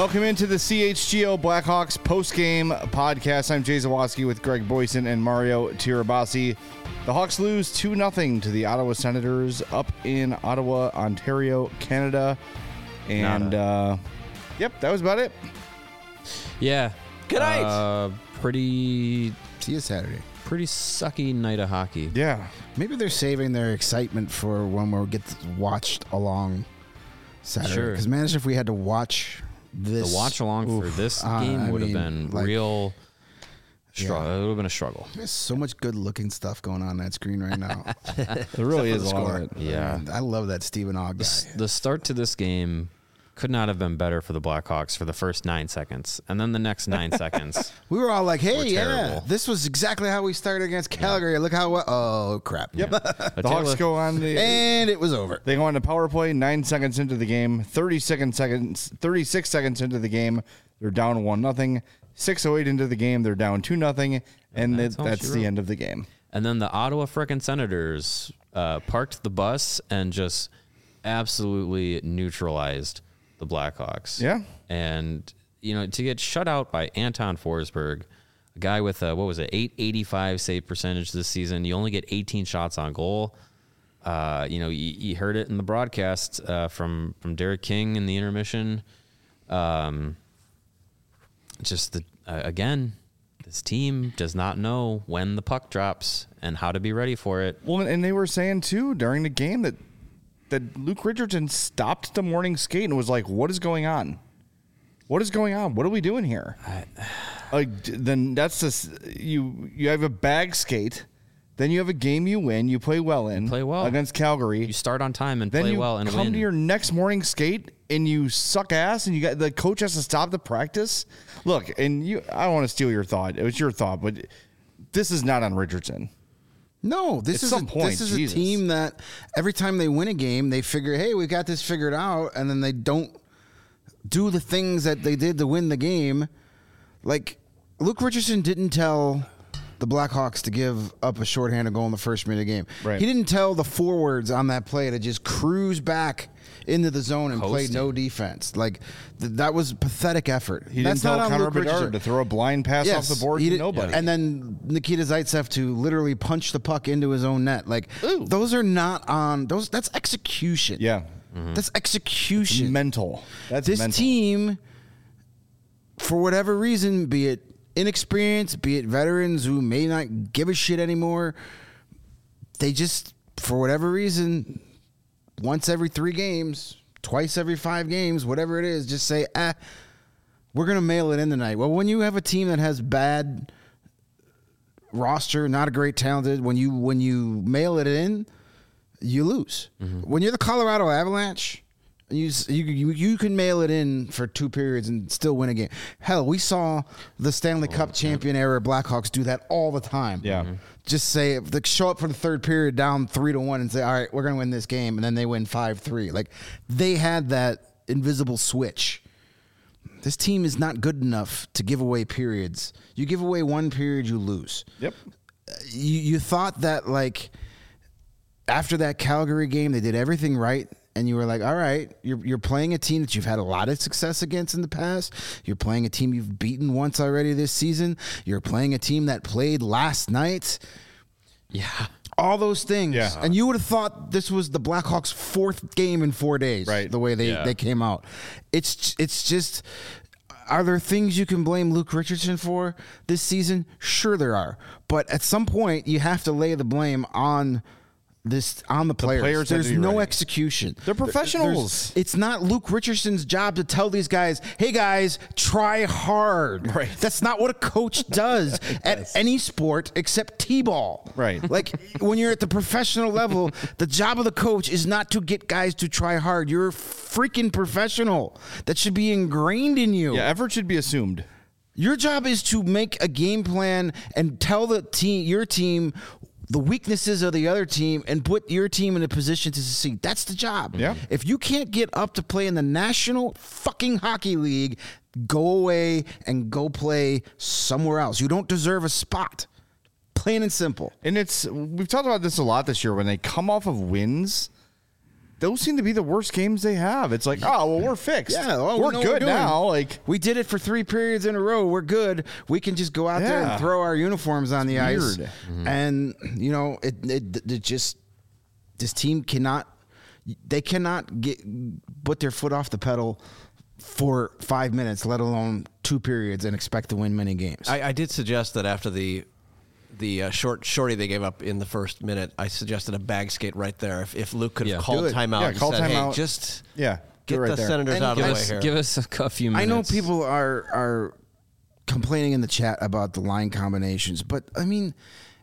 Welcome into the CHGO Blackhawks post-game podcast. I'm Jay Zawoski with Greg Boyson and Mario Tirabassi. The Hawks lose 2-0 to the Ottawa Senators up in Ottawa, Ontario, Canada. And, yep, that was about it. Yeah. Good night. Pretty See you Saturday. Pretty sucky night of hockey. Yeah. Maybe they're saving their excitement for when we'll get watched along Saturday. Sure. Because imagine if we had to watch this. The watch along for this game would have been real struggle. Yeah. It would have been a struggle. There's so much good looking stuff going on that screen right now. There really is a lot of it. Yeah. I love that Stephen Ogg guy. The start to this game could not have been better for the Blackhawks for the first 9 seconds. And then the next 9 seconds. We were all like, hey, were yeah, terrible. this was exactly how we started against Calgary. Look how well. Oh, crap. Yep. The Hawks go on And it was over. They go on to power play 9 seconds into the game, 36 seconds into the game, they're down 1-0. 6:08 into the game, they're down 2-0, and that's the end of the game. And then the Ottawa frickin' Senators parked the bus and just absolutely neutralized the Blackhawks. Yeah. And, you know, to get shut out by Anton Forsberg, a guy with a, 885 save percentage this season. You only get 18 shots on goal. You know, you heard it in the broadcast from Derek King in the intermission. Again, this team does not know when the puck drops and how to be ready for it. Well, and they were saying, too, during the game that Luke Richardson stopped the morning skate and was like, what is going on? What is going on? What are we doing here? Then that's just, you have a bag skate. Then you have a game you win. You play well against Calgary. You start on time and then play you well and come win. to your next morning skate and you suck ass and the coach has to stop the practice. Look, and I don't want to steal your thought. It was your thought, but this is not on Richardson. No, this is a team that every time they win a game, they figure, hey, we got this figured out, and then they don't do the things that they did to win the game. Like, Luke Richardson didn't tell the Blackhawks to give up a shorthanded goal in the first minute of the game. Right. He didn't tell the forwards on that play to just cruise back into the zone and play no defense. Like, that was a pathetic effort. He didn't tell Connor Bedard to throw a blind pass off the board to nobody. And then Nikita Zaitsev to literally punch the puck into his own net. Like, those are not on those. That's execution. Yeah. Mm-hmm. That's execution. It's mental. This team, for whatever reason, be it inexperience, be it veterans who may not give a shit anymore, they just, for whatever reason, once every 3 games, twice every 5 games, whatever it is, just say, we're going to mail it in tonight. Well, when you have a team that has bad roster, not a great talented, when you mail it in, you lose. Mm-hmm. When you're the Colorado Avalanche, you can mail it in for 2 periods and still win a game. Hell, we saw the Stanley Cup champion era Blackhawks do that all the time. Yeah. Mm-hmm. Just say, show up for the 3rd period down 3-1 and say, all right, we're going to win this game. And then they win 5-3. Like, they had that invisible switch. This team is not good enough to give away periods. You give away 1 period, you lose. Yep. You thought that, like, after that Calgary game, they did everything right. And you were like, all right, you're playing a team that you've had a lot of success against in the past. You're playing a team you've beaten once already this season. You're playing a team that played last night. Yeah. All those things. Yeah. And you would have thought this was the Blackhawks' 4th game in 4 days. Right. The way they came out. It's just, are there things you can blame Luke Richardson for this season? Sure there are. But at some point, you have to lay the blame on the players. There's no execution. They're professionals. It's not Luke Richardson's job to tell these guys, hey guys, try hard. Right. That's not what a coach does at any sport except T-ball. Right. Like, when you're at the professional level, the job of the coach is not to get guys to try hard. You're a freaking professional. That should be ingrained in you. Yeah, effort should be assumed. Your job is to make a game plan and tell your team the weaknesses of the other team and put your team in a position to succeed. That's the job. Yeah. If you can't get up to play in the National fucking Hockey League, go away and go play somewhere else. You don't deserve a spot. Plain and simple. And we've talked about this a lot this year. When they come off of wins, those seem to be the worst games they have. It's like, oh, well, we're fixed. Yeah, oh, we're good now. Like, we did it for 3 periods in a row. We're good. We can just go out there and throw our uniforms on the ice. And it just, this team cannot put their foot off the pedal for 5 minutes, let alone 2 periods, and expect to win many games. I did suggest that after the shorty they gave up in the first minute, I suggested a bag skate right there. If Luke could have called timeout and said, hey, just get the Senators out of the way here. Give us a few minutes. I know people are complaining in the chat about the line combinations, but I mean,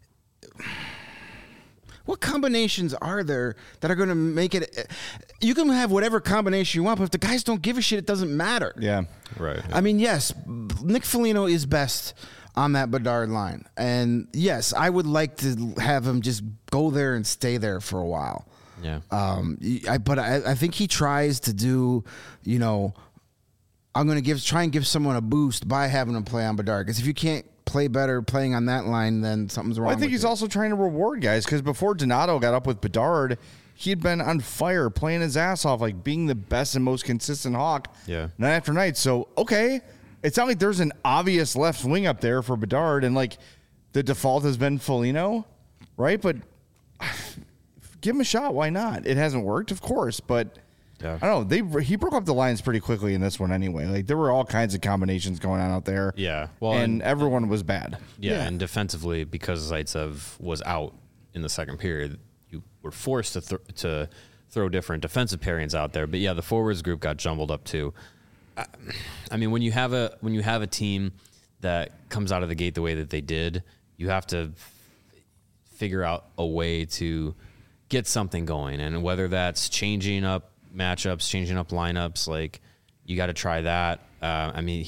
what combinations are there that are going to make it? You can have whatever combination you want, but if the guys don't give a shit, it doesn't matter. Yeah. Right. I mean, yes, Nick Foligno is best on that Bedard line. And yes, I would like to have him just go there and stay there for a while. Yeah. But I think he tries to do, I'm going to try and give someone a boost by having him play on Bedard. Because if you can't play better playing on that line, then something's wrong. I think he's also trying to reward guys, because before Donato got up with Bedard, he had been on fire, playing his ass off, like being the best and most consistent Hawk night after night. So, okay, it's not like there's an obvious left wing up there for Bedard, and like the default has been Foligno, right? But give him a shot. Why not? It hasn't worked, of course, but I don't know. He broke up the lines pretty quickly in this one anyway. Like, there were all kinds of combinations going on out there. Yeah. Well, and everyone was bad. Yeah, and defensively, because Zaitsev was out in the second period, you were forced to throw different defensive pairings out there. But yeah, the forwards group got jumbled up too. I mean, when you have a team that comes out of the gate the way that they did, you have to figure out a way to get something going, and whether that's changing up matchups, changing up lineups, like, you got to try that. I mean,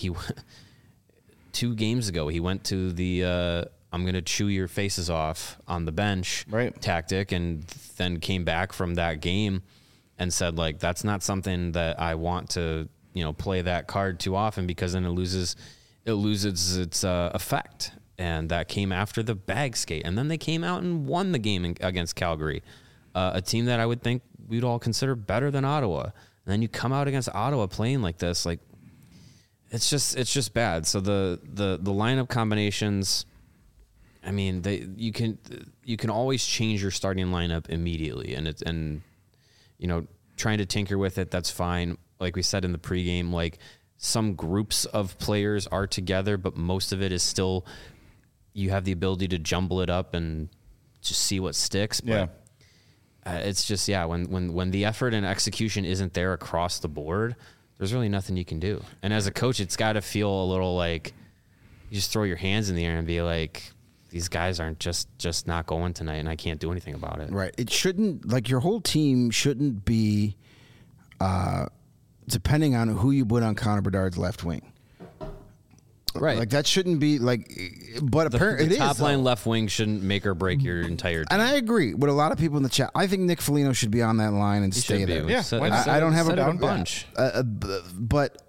2 games ago, he went to the I'm going to chew your faces off on the bench tactic, and then came back from that game and said, like, that's not something that I want to, play that card too often, because then it loses its effect. And that came after the bag skate. And then they came out and won the game against Calgary, a team that I would think we'd all consider better than Ottawa. And then you come out against Ottawa playing like this, like, it's just bad. So the lineup combinations, I mean, you can always change your starting lineup immediately, and trying to tinker with it, that's fine. Like we said in the pregame, like, some groups of players are together, but most of it is still, you have the ability to jumble it up and just see what sticks. But it's just, when the effort and execution isn't there across the board, there's really nothing you can do. And as a coach, it's got to feel a little like you just throw your hands in the air and be like, these guys aren't just not going tonight, and I can't do anything about it. Right. It shouldn't, like, your whole team shouldn't be depending on who you put on Connor Bedard's left wing. Right. Like, that shouldn't be, like, but apparently the top line left wing shouldn't make or break your entire team. And I agree with a lot of people in the chat. I think Nick Foligno should be on that line and stay there. Yeah, I don't have a bunch. But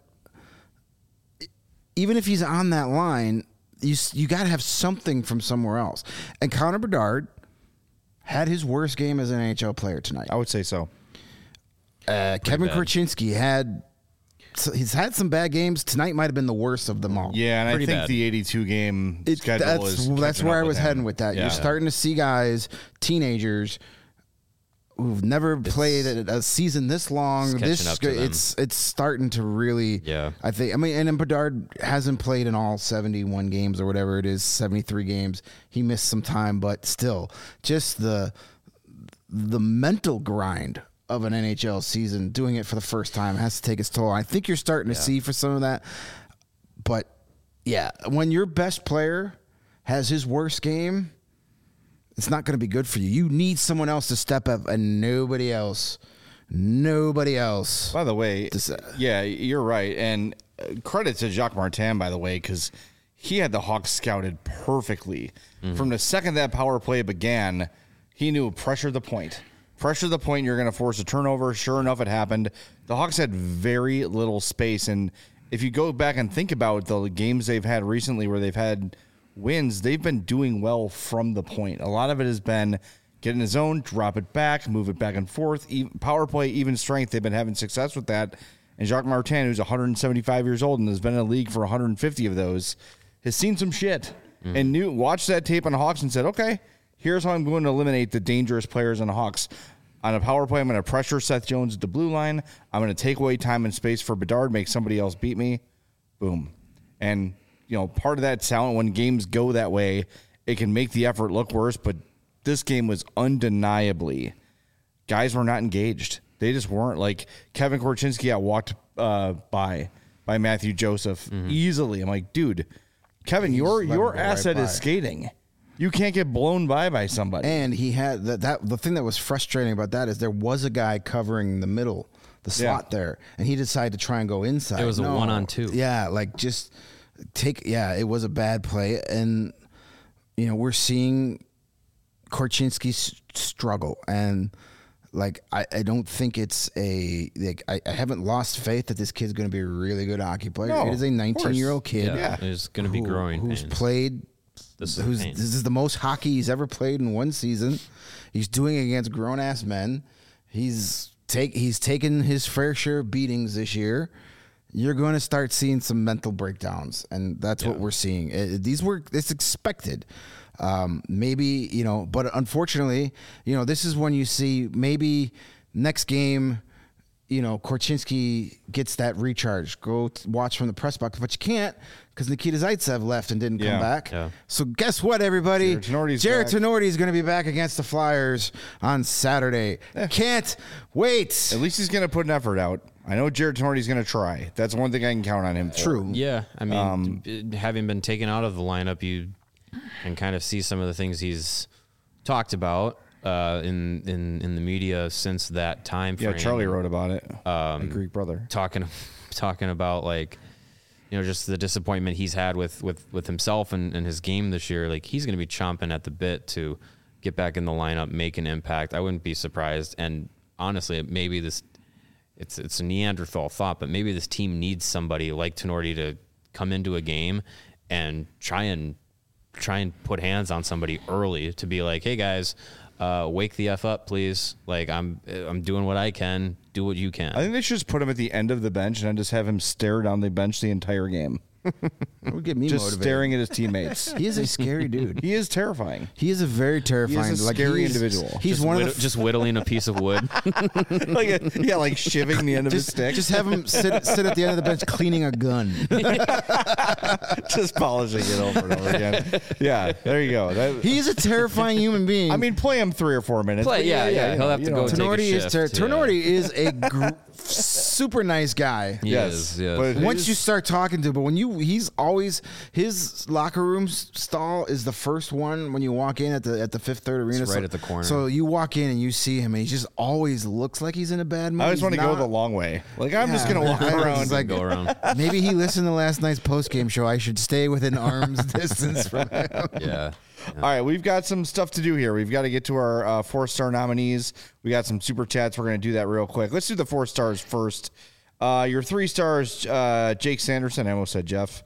even if he's on that line, you got to have something from somewhere else. And Connor Bedard had his worst game as an NHL player tonight. I would say so. Kevin Korchinski he's had some bad games. Tonight might have been the worst of them all. Yeah, and I think the 82 game schedule that's where I was heading with that. Yeah. You're starting to see guys, teenagers, who've never played a season this long. It's starting to really. Yeah. I think. I mean, and then Bedard hasn't played in all 71 games or whatever it is, 73 games. He missed some time, but still, just the mental grind of an NHL season, doing it for the first time, has to take its toll. I think you're starting to see for some of that. But yeah, when your best player has his worst game, it's not going to be good for you. You need someone else to step up, and nobody else. By the way, yeah, you're right. And credit to Jacques Martin, by the way, because he had the Hawks scouted perfectly. Mm-hmm. From the second that power play began, he knew pressure the point. Pressure the point, you're going to force a turnover. Sure enough, it happened. The Hawks had very little space. And if you go back and think about the games they've had recently where they've had wins, they've been doing well from the point. A lot of it has been get in the zone, drop it back, move it back and forth. Power play, even strength. They've been having success with that. And Jacques Martin, who's 175 years old and has been in the league for 150 of those, has seen some shit and watched that tape on the Hawks and said, okay, here's how I'm going to eliminate the dangerous players on the Hawks. On a power play, I'm going to pressure Seth Jones at the blue line. I'm going to take away time and space for Bedard, make somebody else beat me. Boom. And, part of that talent, when games go that way, it can make the effort look worse, but this game was undeniably, guys were not engaged. They just weren't. Like, Kevin Korchinski got walked by Matthew Joseph easily. I'm like, dude, Kevin, your asset is skating. You can't get blown by somebody. And he had the thing that was frustrating about that is there was a guy covering the middle, the slot there, and he decided to try and go inside. It was a 1-on-2. Yeah, it was a bad play. And, we're seeing Korchinski struggle. And, I don't think it's I haven't lost faith that this kid's going to be a really good hockey player. No, it is a 19-year-old kid. Yeah. He's going to be growing. Who's played. This is the most hockey he's ever played in one season. He's doing it against grown-ass men. He's taken his fair share of beatings this year. You're going to start seeing some mental breakdowns, and that's what we're seeing. It's expected. Maybe, but unfortunately, this is when you see maybe next game, Korchinski gets that recharge. Go watch from the press box, but you can't because Nikita Zaitsev left and didn't come back. Yeah. So guess what, everybody? Jared Tenorti is going to be back against the Flyers on Saturday. Can't wait. At least he's going to put an effort out. I know Jared Tenorti is going to try. That's one thing I can count on him for. True. Yeah. I mean, having been taken out of the lineup, you can kind of see some of the things he's talked about in the media since that time frame. Yeah, Charlie wrote about it. My Greek brother. Talking about just the disappointment he's had with himself and his game this year. Like, he's going to be chomping at the bit to get back in the lineup, make an impact. I wouldn't be surprised. And honestly, maybe it's a Neanderthal thought, but maybe this team needs somebody like Tenorti to come into a game and try and put hands on somebody early to be like, hey guys, wake the F up, please. Like, I'm doing what I can. Do what you can. I think they should just put him at the end of the bench and then just have him stare down the bench the entire game. It would get me just motivated. Staring at his teammates. He is a scary dude. He is terrifying. He is a very terrifying, he is a scary individual. He's just whittling a piece of wood, like shivving the end of his stick. Just have him sit at the end of the bench cleaning a gun, just polishing it over and over again. Yeah, there you go. He's a terrifying human being. I mean, play him 3 or 4 minutes. Yeah. He'll have to go. Tenorti is a super nice guy. Yes. But once you start talking to him, but when he's always his locker room stall is the first one when you walk in at the Fifth Third Arena. It's right at the corner. So you walk in and you see him, and he just always looks like he's in a bad mood. I always want to go the long way. Like, I'm just gonna walk around. Like, go around. Maybe he listened to last night's post game show. I should stay within arm's distance from him. Yeah. All right, we've got some stuff to do here. We've got to get to our 4-star nominees. We got some super chats. We're going to do that real quick. Let's do the 4 stars first. Your 3 stars, Jake Sanderson. I almost said Jeff.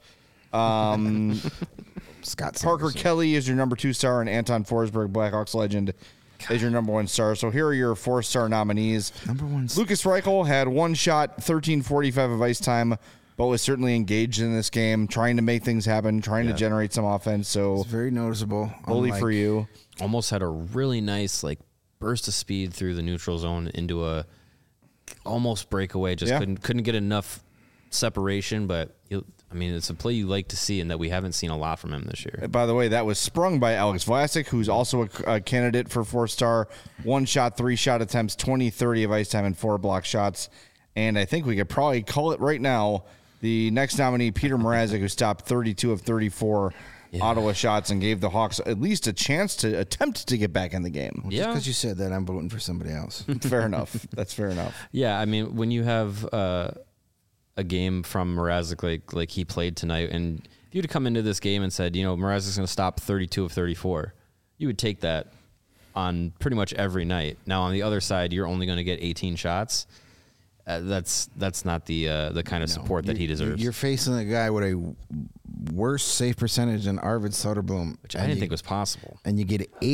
Scott Parker Kelly is your number 2 star, and Anton Forsberg, Blackhawks legend, is your number 1 star. So here are your 4-star nominees. Number 1. Lucas Reichel had 1 shot, 13:45 of ice time, but was certainly engaged in this game, trying to make things happen, trying to generate some offense. So it's very noticeable. Bully for you. Almost had a really nice burst of speed through the neutral zone into a almost breakaway. Just couldn't get enough separation, but it's a play you like to see and that we haven't seen a lot from him this year. By the way, that was sprung by Alex Vlasic, who's also a candidate for 4-star. 1 shot, 3 shot attempts, 20-30 of ice time, and 4 block shots. And I think we could probably call it right now. The next nominee, Peter Mrazek, who stopped 32 of 34 Ottawa shots and gave the Hawks at least a chance to attempt to get back in the game. Well, just because you said that, I'm voting for somebody else. Fair enough. That's fair enough. Yeah, I mean, when you have a game from Mrazek like he played tonight, and if you'd have come into this game and said, Mrazek's going to stop 32 of 34, you would take that on pretty much every night. Now, on the other side, you're only going to get 18 shots. That's not the kind of support that he deserves. You're facing a guy with a worse save percentage than Arvid Soderblom, which I didn't think was possible. And you get 18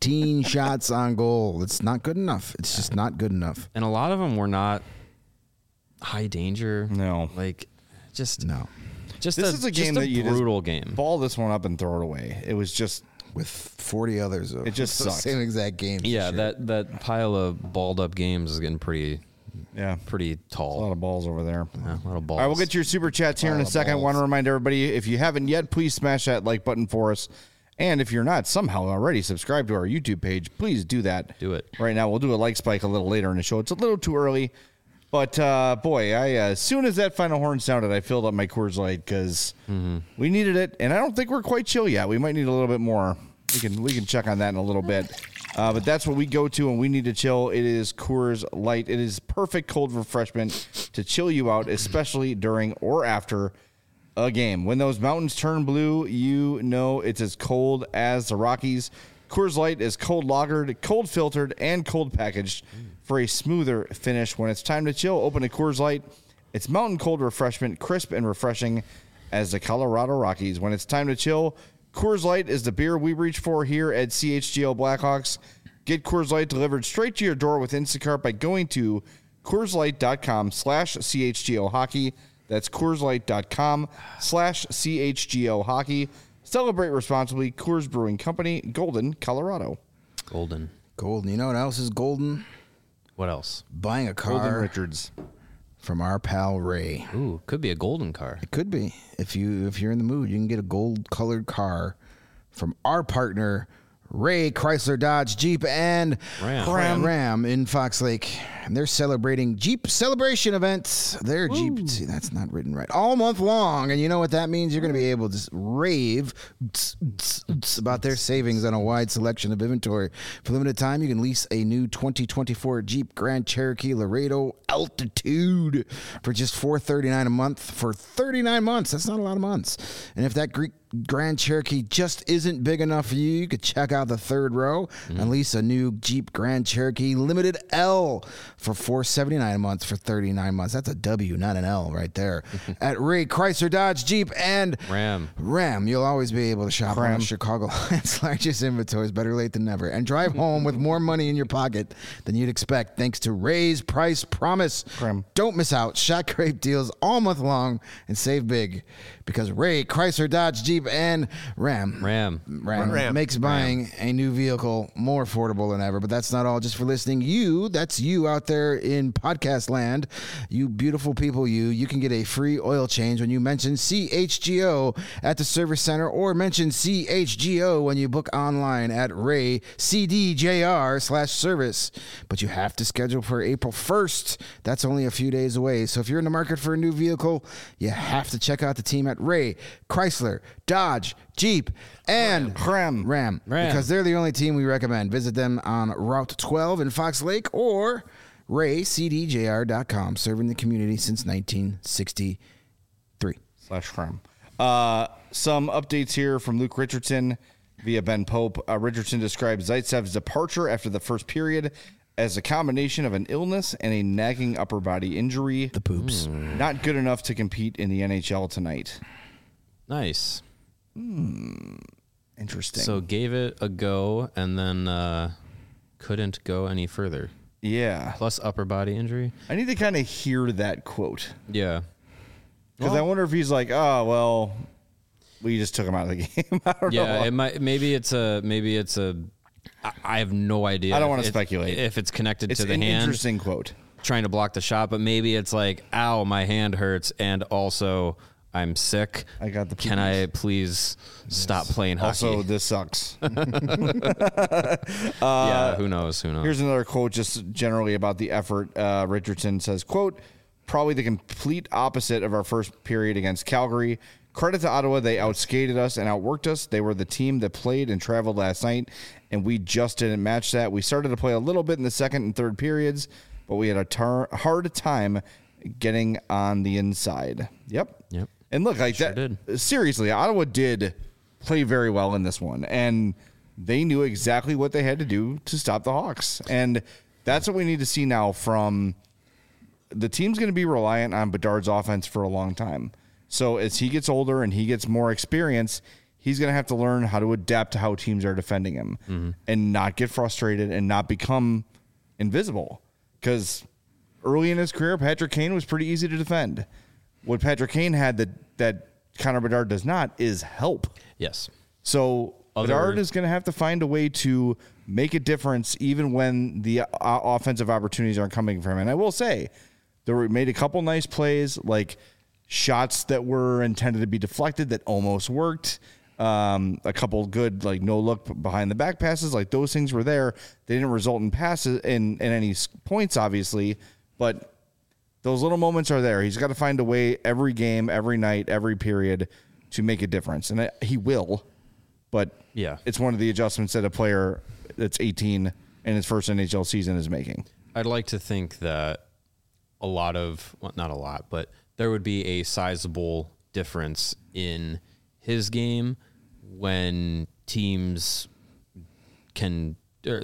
16 shots on goal. It's not good enough. It's just not good enough. And a lot of them were not high danger. No. Like, just no. This is a game that you brutal game. Ball this one up and throw it away. It was just with 40 others. It just sucks. Same exact game. Yeah, that pile of balled up games is getting pretty tall. A lot of balls over there. Yeah, a lot of balls. All right, we'll get to your super chats here in a second. I want to remind everybody, if you haven't yet, please smash that like button for us. And if you're not somehow already subscribed to our YouTube page, please do that. Do it. Right now, we'll do a like spike a little later in the show. It's a little too early. But, boy, as soon as that final horn sounded, I filled up my Coors Light because we needed it. And I don't think we're quite chill yet. We might need a little bit more. We can check on that in a little bit. But that's what we go to when we need to chill. It is Coors Light. It is perfect cold refreshment to chill you out, especially during or after a game. When those mountains turn blue, you know it's as cold as the Rockies. Coors Light is cold lagered, cold filtered, and cold packaged for a smoother finish. When it's time to chill, open a Coors Light. It's mountain cold refreshment, crisp and refreshing as the Colorado Rockies. When it's time to chill, Coors Light is the beer we reach for here at CHGO Blackhawks. Get Coors Light delivered straight to your door with Instacart by going to CoorsLight.com/CHGO Hockey. That's CoorsLight.com/CHGO Hockey. Celebrate responsibly. Coors Brewing Company, Golden, Colorado. Golden. You know what else is golden? What else? Buying a car. Golden Richards. From our pal Ray. Ooh, could be a golden car. It could be. If you're in the mood, you can get a gold-colored car from our partner Ray Chrysler Dodge Jeep and Ram in Fox Lake. And they're celebrating Jeep celebration events. Their Jeep, see, that's not written right, all month long. And you know what that means? You're going to be able to rave about their savings on a wide selection of inventory. For limited time, you can lease a new 2024 Jeep Grand Cherokee Laredo Altitude for just $439 a month for 39 months. That's not a lot of months. And if that Grand Cherokee just isn't big enough for you, you could check out the third row and lease a new Jeep Grand Cherokee Limited L for $479 a month for 39 months. That's a W, not an L right there. At Ray Chrysler Dodge Jeep and Ram, you'll always be able to shop on Chicagoland's largest inventories. Better late than never. And drive home with more money in your pocket than you'd expect thanks to Ray's Price Promise. Don't miss out. Shot great deals all month long and save big because Ray Chrysler Dodge Jeep and Ram makes buying a new vehicle more affordable than ever. But that's not all. Just for listening, that's you out there in podcast land, you beautiful people, you can get a free oil change when you mention CHGO at the service center, or mention CHGO when you book online at RayCDJR/service. But you have to schedule for April 1st. That's only a few days away. So if you're in the market for a new vehicle, you have to check out the team at Ray Chrysler Dodge Jeep and Ram, because they're the only team we recommend. Visit them on Route 12 in Fox Lake or RayCDJR.com, serving the community since 1963. /Ram. Some updates here from Luke Richardson via Ben Pope. Richardson describes Zaitsev's departure after the first period as a combination of an illness and a nagging upper body injury. The poops. Not good enough to compete in the NHL tonight. Nice. Interesting. So gave it a go and then couldn't go any further. Yeah. Plus upper body injury. I need to kind of hear that quote. Yeah. Because I wonder if he's like, oh, well, we just took him out of the game. I don't know. Yeah, it might. Maybe it's a. I have no idea. I don't want to speculate if it's connected to the hand. It's an interesting quote. Trying to block the shot, but maybe it's like, ow, my hand hurts, and also I'm sick. I got the. Can I please stop playing hockey? Also, this sucks. Yeah, who knows? Here's another quote, just generally about the effort. Richardson says, "Quote: Probably the complete opposite of our first period against Calgary. Credit to Ottawa, they outskated us and outworked us. They were the team that played and traveled last night, and we just didn't match that. We started to play a little bit in the second and third periods, but we had a hard time getting on the inside." Yep. And look, like that. Did. Seriously, Ottawa did play very well in this one, and they knew exactly what they had to do to stop the Hawks. And that's what we need to see now from the team's going to be reliant on Bedard's offense for a long time. So as he gets older and he gets more experience, he's going to have to learn how to adapt to how teams are defending him and not get frustrated and not become invisible. Because early in his career, Patrick Kane was pretty easy to defend. What Patrick Kane had that Connor Bedard does not is help. Yes. So Bedard is going to have to find a way to make a difference even when the offensive opportunities aren't coming from him. And I will say, they made a couple nice plays, like shots that were intended to be deflected that almost worked. A couple good, like, no look behind the back passes, like those things were there. They didn't result in passes in any points, obviously, but those little moments are there. He's got to find a way every game, every night, every period to make a difference. And he will, but yeah, it's one of the adjustments that a player that's 18 in his first NHL season is making. I'd like to think that not a lot, but there would be a sizable difference in his game when teams can't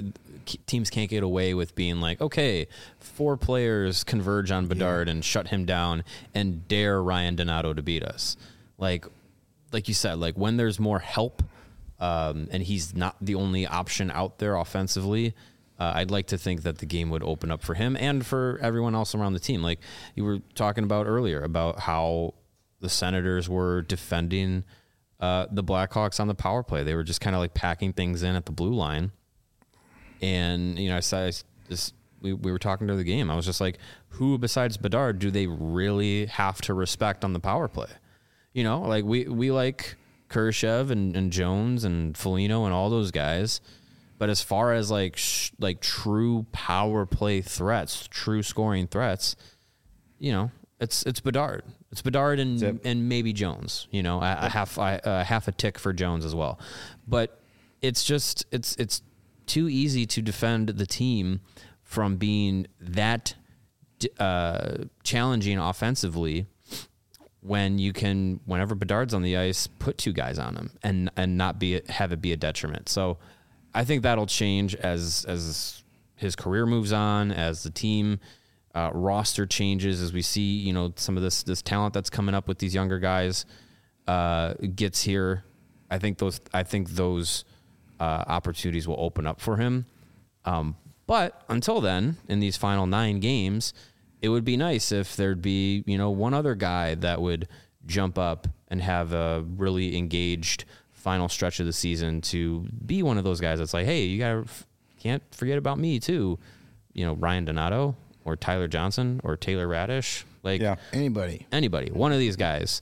get away with being like, okay, 4 players converge on Bedard and shut him down and dare Ryan Donato to beat us. Like you said, like when there's more help and he's not the only option out there offensively, I'd like to think that the game would open up for him and for everyone else around the team. Like you were talking about earlier about how the Senators were defending the Blackhawks on the power play. They were just kind of like packing things in at the blue line. And, you know, we were talking to the game. I was just like, who besides Bedard do they really have to respect on the power play? You know, like we like Kurashev and Jones and Foligno and all those guys. But as far as like true power play threats, true scoring threats, you know, it's Bedard. It's Bedard and maybe Jones. You know, a half a tick for Jones as well. But it's just it's too easy to defend the team from being that challenging offensively when you can, whenever Bedard's on the ice, put 2 guys on him and not have it be a detriment. So I think that'll change as his career moves on, as the team roster changes, as we see, you know, some of this talent that's coming up with these younger guys gets here. I think those opportunities will open up for him. But until then, in these final 9 games, it would be nice if there'd be, you know, one other guy that would jump up and have a really engaged final stretch of the season to be one of those guys that's like, hey, you can't forget about me too. You know, Ryan Donato or Tyler Johnson or Taylor Radish. Like anybody, one of these guys,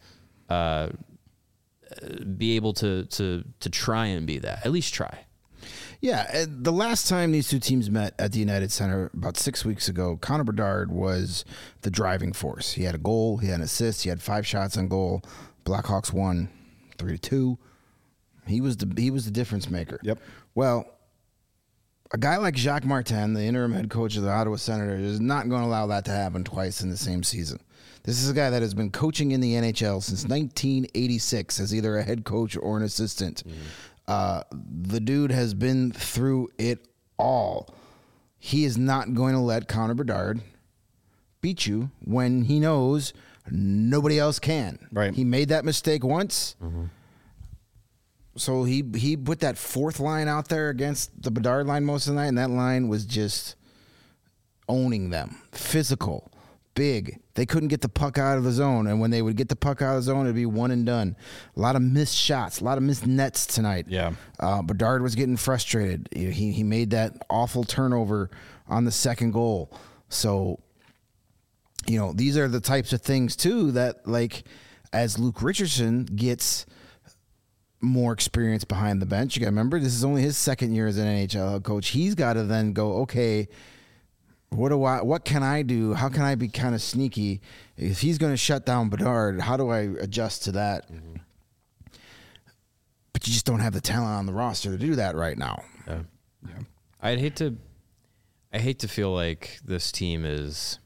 be able to try and be that, at least try. Yeah, the last time these 2 teams met at the United Center about 6 weeks ago, Connor Bedard was the driving force. He had a goal, he had an assist, he had 5 shots on goal. Blackhawks won 3-2. He was the difference maker. Yep. Well, a guy like Jacques Martin, the interim head coach of the Ottawa Senators, is not going to allow that to happen twice in the same season. This is a guy that has been coaching in the NHL since 1986 as either a head coach or an assistant. The dude has been through it all. He is not going to let Connor Bedard beat you when he knows nobody else can. Right. He made that mistake once. Mm-hmm. So he put that 4th line out there against the Bedard line most of the night, and that line was just owning them. Physical, big. They couldn't get the puck out of the zone, and when they would get the puck out of the zone, it'd be one and done. A lot of missed shots, a lot of missed nets tonight. Yeah. Bedard was getting frustrated. He made that awful turnover on the second goal. So, you know, these are the types of things, too, that, like, as Luke Richardson gets more experience behind the bench, you got to remember, this is only his 2nd year as an NHL coach. He's got to then go, okay, what can I do? How can I be kind of sneaky? If he's going to shut down Bedard, how do I adjust to that? Mm-hmm. But you just don't have the talent on the roster to do that right now. Yeah. I'd hate to feel like this team is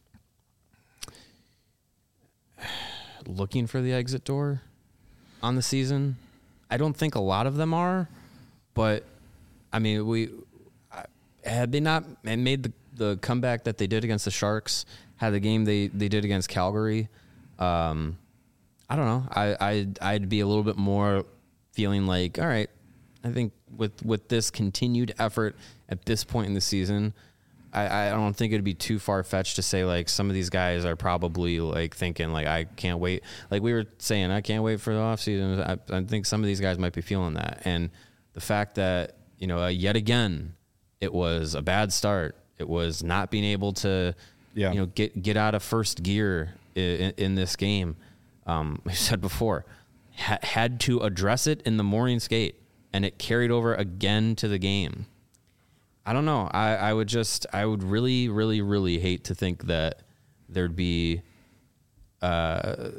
looking for the exit door on the season. I don't think a lot of them are, but I mean, had they not made the comeback that they did against the Sharks, had the game they did against Calgary, I don't know. I'd be a little bit more feeling like, all right, I think with this continued effort at this point in the season, I don't think it'd be too far-fetched to say, like, some of these guys are probably, like, thinking, like, I can't wait. Like we were saying, I can't wait for the offseason. I think some of these guys might be feeling that. And the fact that, yet again, it was a bad start. It was not being able to, get out of first gear in this game. We said before, had to address it in the morning skate, and it carried over again to the game. I don't know. I would really, really, really hate to think that there'd be that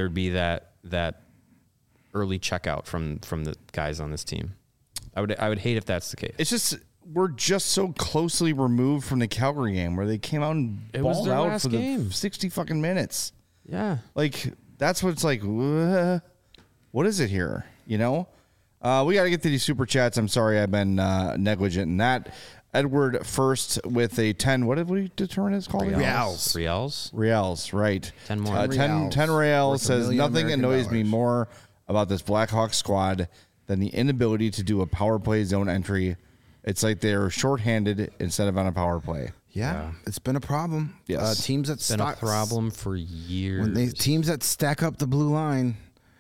early checkout from the guys on this team. I would hate if that's the case. It's just we're just so closely removed from the Calgary game where they came out and balled out for the 60 fucking minutes. Yeah, like that's what it's like. What is it here? We got to get to these super chats. I'm sorry I've been negligent in that. Edward first with a 10. What did we determine it's called? Reals, right. 10 more. 10 reals says, nothing annoys me more about this Blackhawks squad than the inability to do a power play zone entry. It's like they're shorthanded instead of on a power play. Yeah. It's been a problem. Yes. Teams that been a problem for years. Teams that stack up the blue line,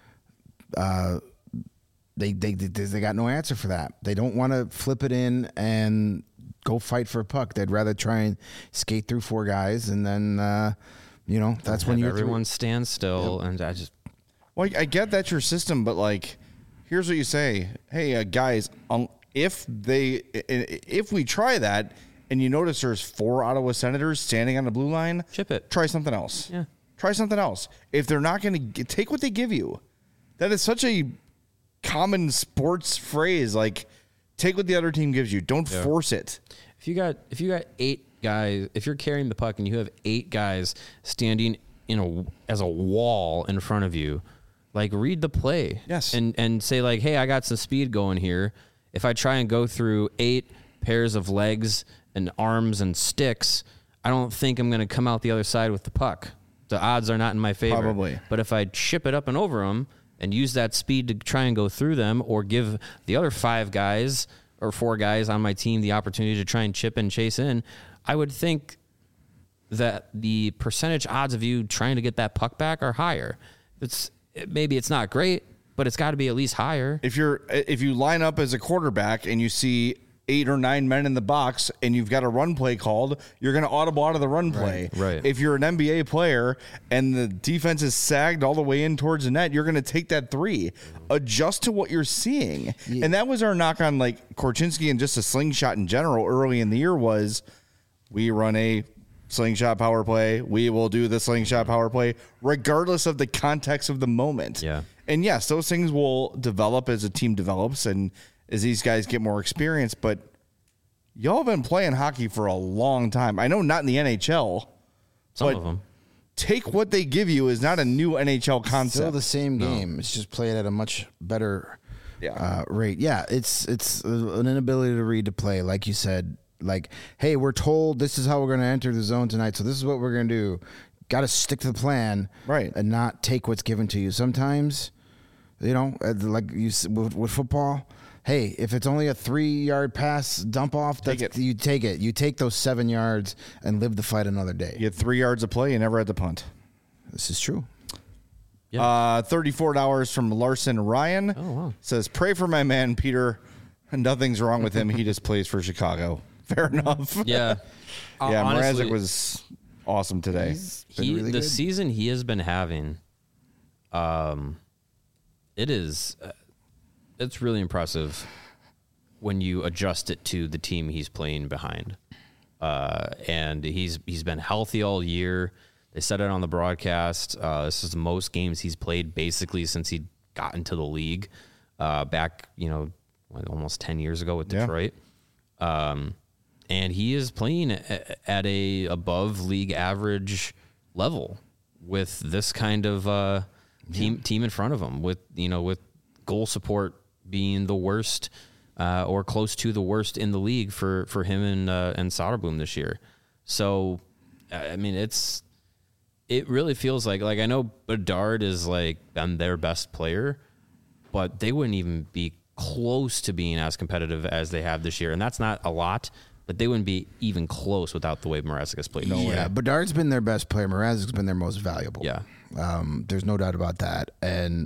they got no answer for that. They don't want to flip it in and go fight for a puck. They'd rather try and skate through four guys, and then that's when everyone stands still. Yep. And I just I get that's your system, but like, here's what you say: hey, guys, if we try that, and you notice there's 4 Ottawa Senators standing on the blue line, chip it. Try something else. Yeah, try something else. If they're not going to take what they give you, that is such a common sports phrase. Like, take what the other team gives you. Don't force it. If you got 8 guys, if you're carrying the puck and you have 8 guys standing as a wall in front of you, like, read the play. Yes. And say, like, hey, I got some speed going here. If I try and go through 8 pairs of legs and arms and sticks, I don't think I'm going to come out the other side with the puck. The odds are not in my favor. Probably. But if I chip it up and over them and use that speed to try and go through them, or give the other 5 guys or 4 guys on my team the opportunity to try and chip and chase in, I would think that the percentage odds of you trying to get that puck back are higher. Maybe it's not great, but it's got to be at least higher. If you line up as a quarterback and you see 8 or 9 men in the box and you've got a run play called, you're going to audible out of the run play. Right. If you're an NBA player and the defense is sagged all the way in towards the net, you're going to take that 3. Adjust to what you're seeing. Yeah. And that was our knock on, like, Korchinski and just a slingshot in general early in the year was, we run a slingshot power play. We will do the slingshot power play regardless of the context of the moment. Yeah. And yes, those things will develop as a team develops and as these guys get more experience, but y'all have been playing hockey for a long time. I know not in the NHL. Some of them. Take what they give you is not a new NHL concept. Still the same game. No. It's just played at a much better rate. Yeah, it's an inability to read the play, like you said. Like, hey, we're told this is how we're going to enter the zone tonight, so this is what we're going to do. Got to stick to the plan, right, and not take what's given to you. Sometimes, like you with football. Hey, if it's only a 3-yard pass dump off, you take it. You take those 7 yards and live the fight another day. You had 3 yards of play, you never had to punt. This is true. Yeah. $34 from Larson Ryan. Oh, wow. Says, pray for my man, Peter. Nothing's wrong with him. He just plays for Chicago. Fair enough. Yeah. Mrazek was awesome today. Really the season he has been having, it's really impressive when you adjust it to the team he's playing behind. And he's been healthy all year. They said it on the broadcast. This is the most games he's played basically since he got into the league back, almost 10 years ago with Detroit. And he is playing at a above league average level with this kind of team in front of him, with goal support being the worst or close to the worst in the league for him and Soderblom this year. So, I mean, it really feels like I know Bedard is like been their best player, but they wouldn't even be close to being as competitive as they have this year. And that's not a lot, but they wouldn't be even close without the way Mrazek has played. Yeah, Bedard's been their best player. Mrazek's been their most valuable. Yeah. There's no doubt about that. And,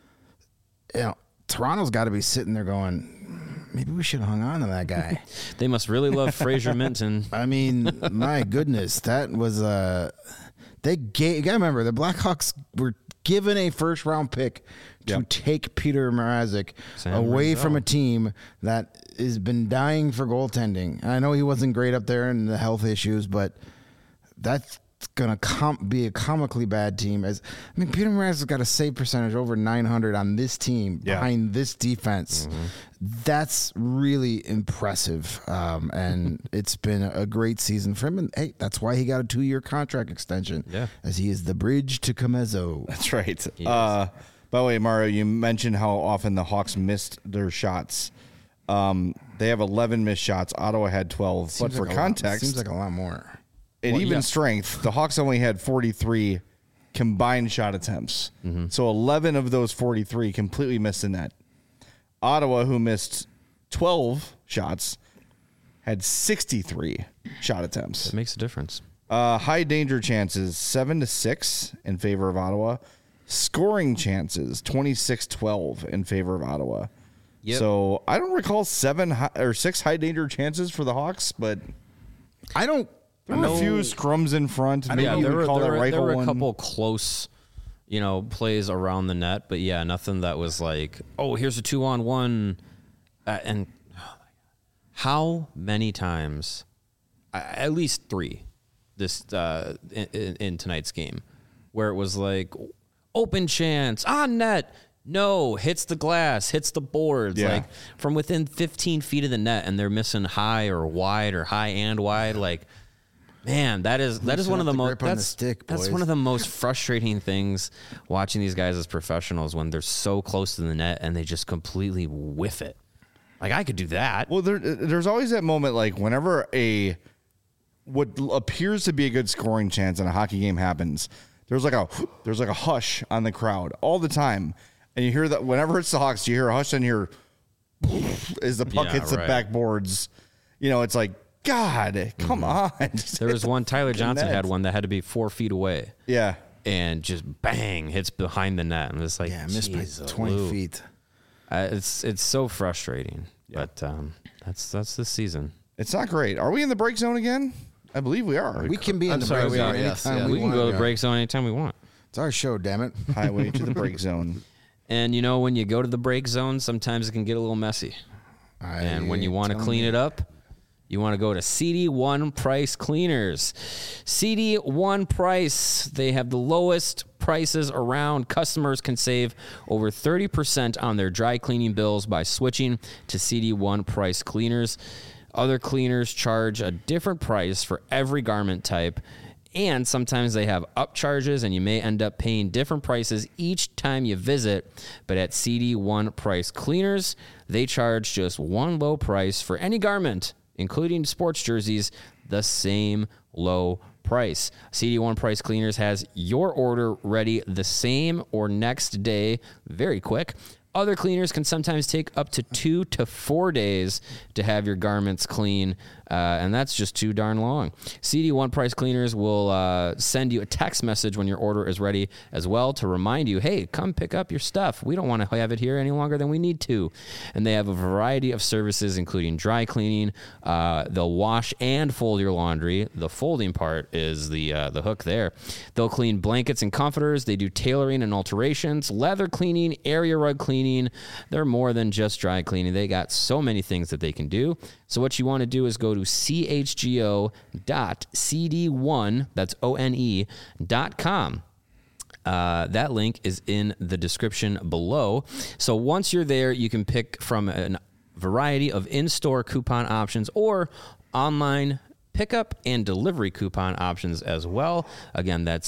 Toronto's got to be sitting there going, maybe we should have hung on to that guy. They must really love Fraser Minton. I mean, my goodness, that was you gotta remember, the Blackhawks were given a first-round pick to take Peter Mrazek away from a team that has been dying for goaltending. And I know he wasn't great up there in the health issues, but that's going to be a comically bad team. Peter Mrazek's got a save percentage over 900 on this team behind this defense. Mm-hmm. That's really impressive. And it's been a great season for him. And, hey, that's why he got a 2-year contract extension, as he is the bridge to Comezo. That's right. By the way, Mario, you mentioned how often the Hawks missed their shots. They have 11 missed shots. Ottawa had 12. But for context, seems like a lot more. At even strength, the Hawks only had 43 combined shot attempts. Mm-hmm. So 11 of those 43 completely missed the net. Ottawa, who missed 12 shots, had 63 shot attempts. That makes a difference. High danger chances, 7-6 in favor of Ottawa. Scoring chances, 26-12 in favor of Ottawa. Yep. So I don't recall 6 high danger chances for the Hawks, but there were a few scrums in front. Maybe there were a couple close, plays around the net, but nothing that was like, oh, here's a 2-on-1. And how many times, at least 3, this in tonight's game, where it was like, open chance, on net, no, hits the glass, hits the boards, like from within 15 feet of the net, and they're missing high or wide or high and wide, like. Man, that is one of the most that's one of the most frustrating things watching these guys as professionals when they're so close to the net and they just completely whiff it. Like I could do that. Well, there's always that moment like whenever what appears to be a good scoring chance in a hockey game happens, there's like a hush on the crowd all the time, and you hear that whenever it's the Hawks, you hear a hush and hear as the puck hits the backboards. It's like. God, come on. There was one, Tyler Johnson had one that had to be 4 feet away. Yeah. And just bang, hits behind the net. And it's like, missed by 20 feet. It's so frustrating. Yeah. But that's this season. It's not great. Are we in the break zone again? I believe we are. We can be in the break zone anytime we can go to the break zone anytime we want. It's our show, damn it. Highway to the break zone. And, when you go to the break zone, sometimes it can get a little messy. And when you want to clean it up, you want to go to CD1 Price Cleaners. CD1 Price, they have the lowest prices around. Customers can save over 30% on their dry cleaning bills by switching to CD1 Price Cleaners. Other cleaners charge a different price for every garment type, and sometimes they have upcharges, and you may end up paying different prices each time you visit. But at CD1 Price Cleaners, they charge just one low price for any garment, including sports jerseys, the same low price. CD1 Price Cleaners has your order ready the same or next day, very quick. Other cleaners can sometimes take up to 2 to 4 days to have your garments clean, and that's just too darn long. CD1 Price Cleaners will send you a text message when your order is ready as well to remind you, hey, come pick up your stuff. We don't want to have it here any longer than we need to. And they have a variety of services, including dry cleaning. They'll wash and fold your laundry. The folding part is the hook there. They'll clean blankets and comforters. They do tailoring and alterations, leather cleaning, area rug cleaning. They're more than just dry cleaning. They got so many things that they can do. So what you want to do is go to chgo.cd1, that's one.com. That link is in the description below. So once you're there, you can pick from a variety of in-store coupon options or online pickup and delivery coupon options as well. Again, that's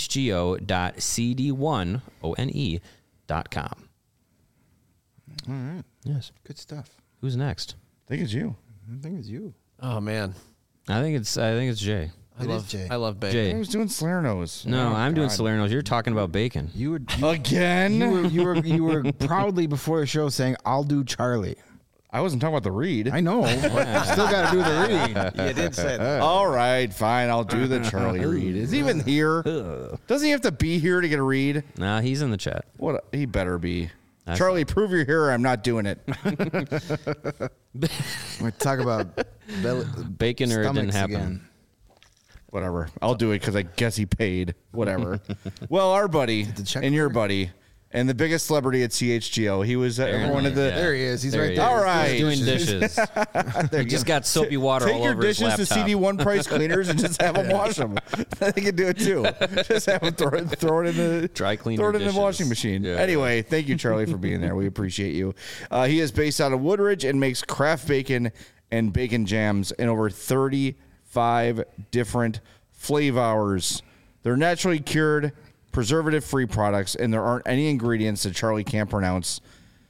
chgo.cd1, All right. Yes. Good stuff. Who's next? I think it's you. I think it's you. Oh man. I think it's Jay. I love bacon. Jay. I was doing Salerno's. No, I'm doing Salerno's. You're talking about bacon. Again? You were proudly before the show saying, "I'll do Charlie." I wasn't talking about the read. I know. Still got to do the read. You did say that. All right, fine. I'll do the Charlie read. Is he even here? Doesn't he have to be here to get a read? Nah, he's in the chat. He better be. Charlie, prove you're here. I'm not doing it. We talk about bacon or it didn't happen. Again. Whatever. I'll do it because I guess he paid. Whatever. Well, our buddy and your buddy and the biggest celebrity at CHGO. He was one of the. There he is. He's right there. All right. He's doing dishes. He just got soapy water all over his laptop. Take your dishes to CD1 price cleaners and just have them wash them. They can do it too. Just have them throw it in the dry cleaner. Throw it in the washing machine. Yeah. Anyway, thank you, Charlie, for being there. We appreciate you. He is based out of Woodridge and makes craft bacon and bacon jams in over 35 different flavors. They're naturally cured, preservative-free products, and there aren't any ingredients that Charlie can't pronounce.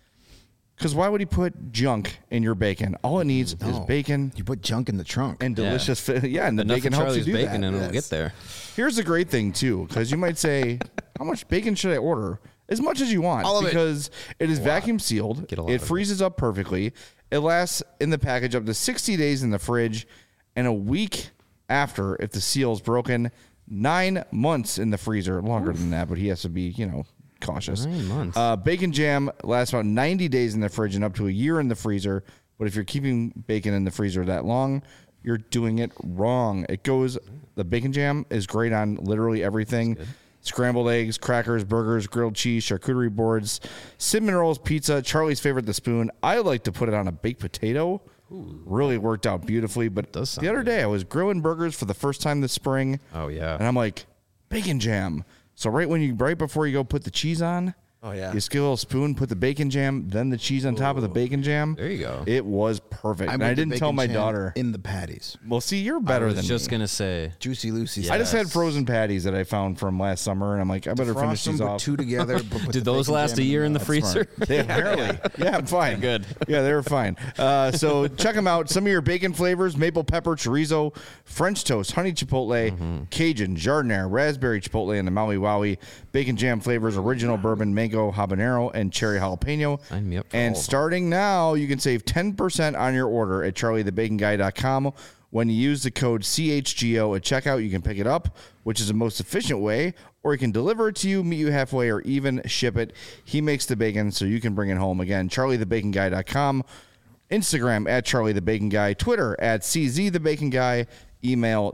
Because why would he put junk in your bacon? All it needs is bacon. You put junk in the trunk. And delicious. Yeah, and the bacon helps you do bacon that. And it'll get there. Here's the great thing, too, because you might say, how much bacon should I order? As much as you want. All of because it is vacuum sealed. It freezes up perfectly. It lasts in the package up to 60 days in the fridge, and a week after, if the seal is broken, 9 months in the freezer. Longer than that, but he has to be, cautious. 9 months. Bacon jam lasts about 90 days in the fridge and up to a year in the freezer. But if you're keeping bacon in the freezer that long, you're doing it wrong. The bacon jam is great on literally everything. Scrambled eggs, crackers, burgers, grilled cheese, charcuterie boards, cinnamon rolls, pizza. Charlie's favorite, the spoon. I like to put it on a baked potato. Ooh. Really worked out beautifully. But the other day, I was grilling burgers for the first time this spring. Oh, yeah. And I'm like, bacon jam. So right before you go put the cheese on, you skill a little spoon, put the bacon jam, then the cheese on top of the bacon jam. There you go. It was perfect. And I didn't tell my daughter. In the patties. Well, see, you're better than me. I was just going to say. Juicy Lucy. Yes. I just had frozen patties that I found from last summer, and I'm like, I better finish these off. Put two together. Did those last a year in the freezer? Apparently. Yeah, I'm fine. Good. Yeah, they were fine. So check them out. Some of your bacon flavors: maple pepper, chorizo, French toast, honey chipotle, Cajun, jardinere, raspberry chipotle, and the Maui Wowie. Bacon jam flavors: original bourbon, mango, habanero, and cherry jalapeno. Sign me up for and starting now, you can save 10% on your order at charliethebaconguy.com. When you use the code CHGO at checkout, you can pick it up, which is the most efficient way, or he can deliver it to you, meet you halfway, or even ship it. He makes the bacon so you can bring it home. Again, charliethebaconguy.com, Instagram at charliethebaconguy, Twitter at CZTheBaconGuy, email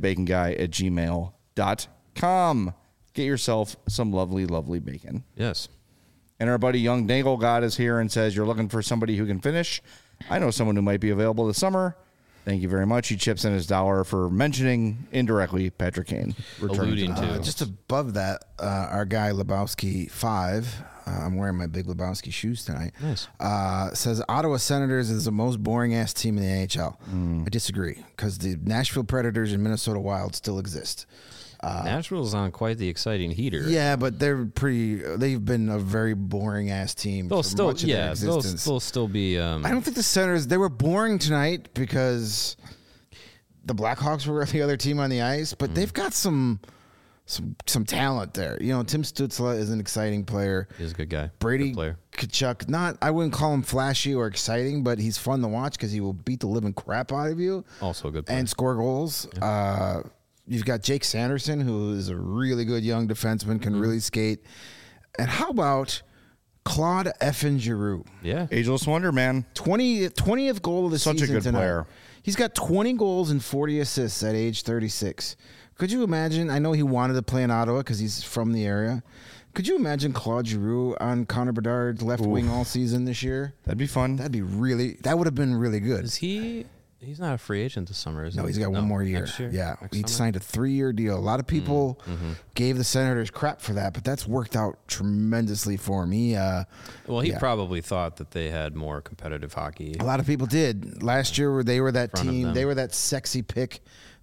charliethebaconguy@gmail.com. Get yourself some lovely, lovely bacon. Yes. And our buddy Young Dangle God is here and says, you're looking for somebody who can finish. I know someone who might be available this summer. Thank you very much. He chips in his dollar for mentioning indirectly Patrick Kane. Alluding to. Just above that, our guy Lebowski 5, I'm wearing my big Lebowski shoes tonight, says Ottawa Senators is the most boring-ass team in the NHL. I disagree, because the Nashville Predators and Minnesota Wild still exist. Nashville's on quite the exciting heater. Yeah, but they've been a very boring ass team for much of their existence. They'll still be. I don't think the Senators, they were boring tonight because the Blackhawks were the other team on the ice, but they've got some talent there. Tim Stützle is an exciting player. He's a good guy. Brady good Tkachuk, I wouldn't call him flashy or exciting, but he's fun to watch because he will beat the living crap out of you. Also a good player. And score goals. Yeah. You've got Jake Sanderson, who is a really good young defenseman, can really skate. And how about Claude effing Giroux? Yeah. Ageless wonder, man. 20th goal of the season. Such a good player. He's got 20 goals and 40 assists at age 36. Could you imagine? I know he wanted to play in Ottawa because he's from the area. Could you imagine Claude Giroux on Connor Bedard's left wing all season this year? That'd be fun. That would have been really good. Is he... He's not a free agent this summer, is he? No, he's got one more year. Next year? Yeah, he signed a 3-year deal. A lot of people gave the Senators crap for that, but that's worked out tremendously for him. He probably thought that they had more competitive hockey. A lot of people did. Last year, they were that team. They were that sexy pick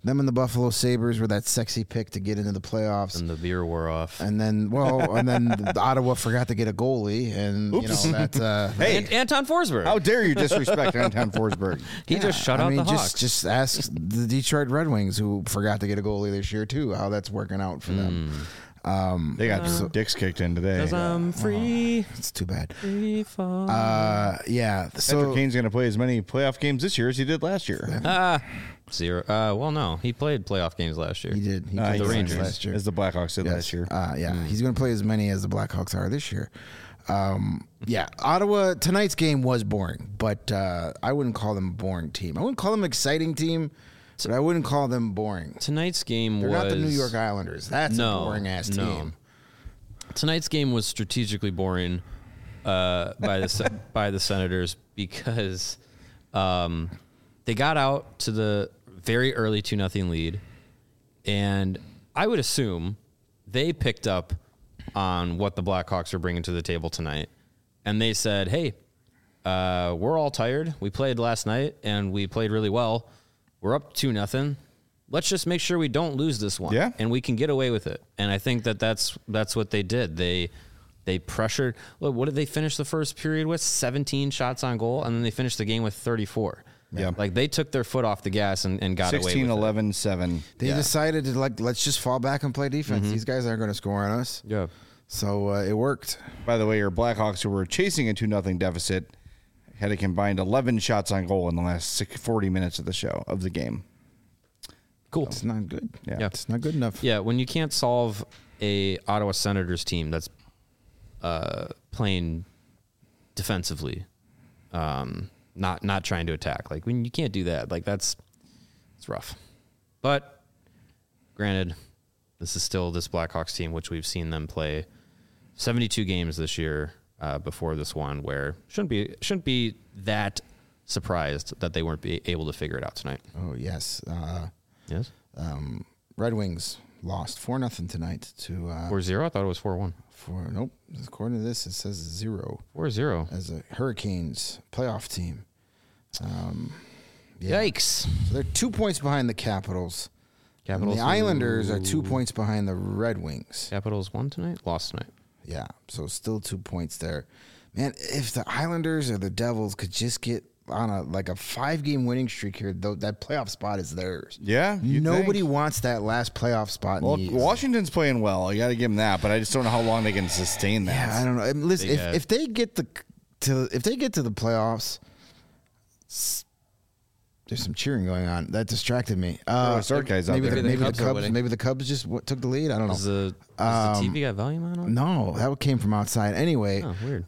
Them and the Buffalo Sabres were that sexy pick to get into the playoffs. And the beer wore off. And then, Ottawa forgot to get a goalie. And, hey, Anton Forsberg. How dare you disrespect Anton Forsberg? He just shut out the Hawks. Just ask the Detroit Red Wings, who forgot to get a goalie this year, too, how that's working out for them. They got dicks kicked in today. 'Cause I'm free. It's too bad. Free fall. So Kane's going to play as many playoff games this year as he did last year. 0. Well, no, he played playoff games last year. He did. He played the Rangers last year, as the Blackhawks did last year. He's going to play as many as the Blackhawks are this year. Ottawa, tonight's game was boring, but I wouldn't call them a boring team. I wouldn't call them an exciting team, but I wouldn't call them boring. Tonight's game They're not the New York Islanders. That's a boring-ass team. Tonight's game was strategically boring by the Senators because they got out to the very early 2-0 lead, and I would assume they picked up on what the Blackhawks are bringing to the table tonight, and they said, hey, we're all tired. We played last night, and we played really well. We're up 2-0. Let's just make sure we don't lose this one, and we can get away with it. And I think that's what they did. They pressured. Look, what did they finish the first period with? 17 shots on goal, and then they finished the game with 34. Yeah, like they took their foot off the gas and got 16, away with 11, 7. They decided to let's just fall back and play defense. These guys aren't going to score on us. Yeah, so it worked. By the way, your Blackhawks, who were chasing a 2-0 deficit, had a combined 11 shots on goal in the last 40 minutes of the game. Cool. It's not good. Yeah, it's not good enough. Yeah, when you can't solve a Ottawa Senators team that's playing defensively, not trying to attack. Like when you can't do that, like it's rough. But granted, this is still this Blackhawks team, which we've seen them play 72 games this year before this one, where shouldn't be that surprised that they weren't able to figure it out tonight. Oh yes, yes. Red Wings lost 4-0 tonight to 4-0. I thought it was 4-1. Nope. According to this, it says 0. 4-0 as a Hurricanes playoff team. Yikes! So they're 2 points behind the Capitals. And the Islanders are 2 points behind the Red Wings. Capitals won tonight, lost tonight. Yeah, so still 2 points there. Man, if the Islanders or the Devils could just get on a 5-game winning streak here, though, that playoff spot is theirs. Yeah, nobody wants that last playoff spot. Well, Washington's playing well. You got to give them that, but I just don't know how long they can sustain that. Yeah, I don't know. Listen, if they get to the playoffs, there's some cheering going on that distracted me. Maybe the Cubs just took the lead. I don't know. Is the TV got volume on? No, that came from outside. Anyway, weird.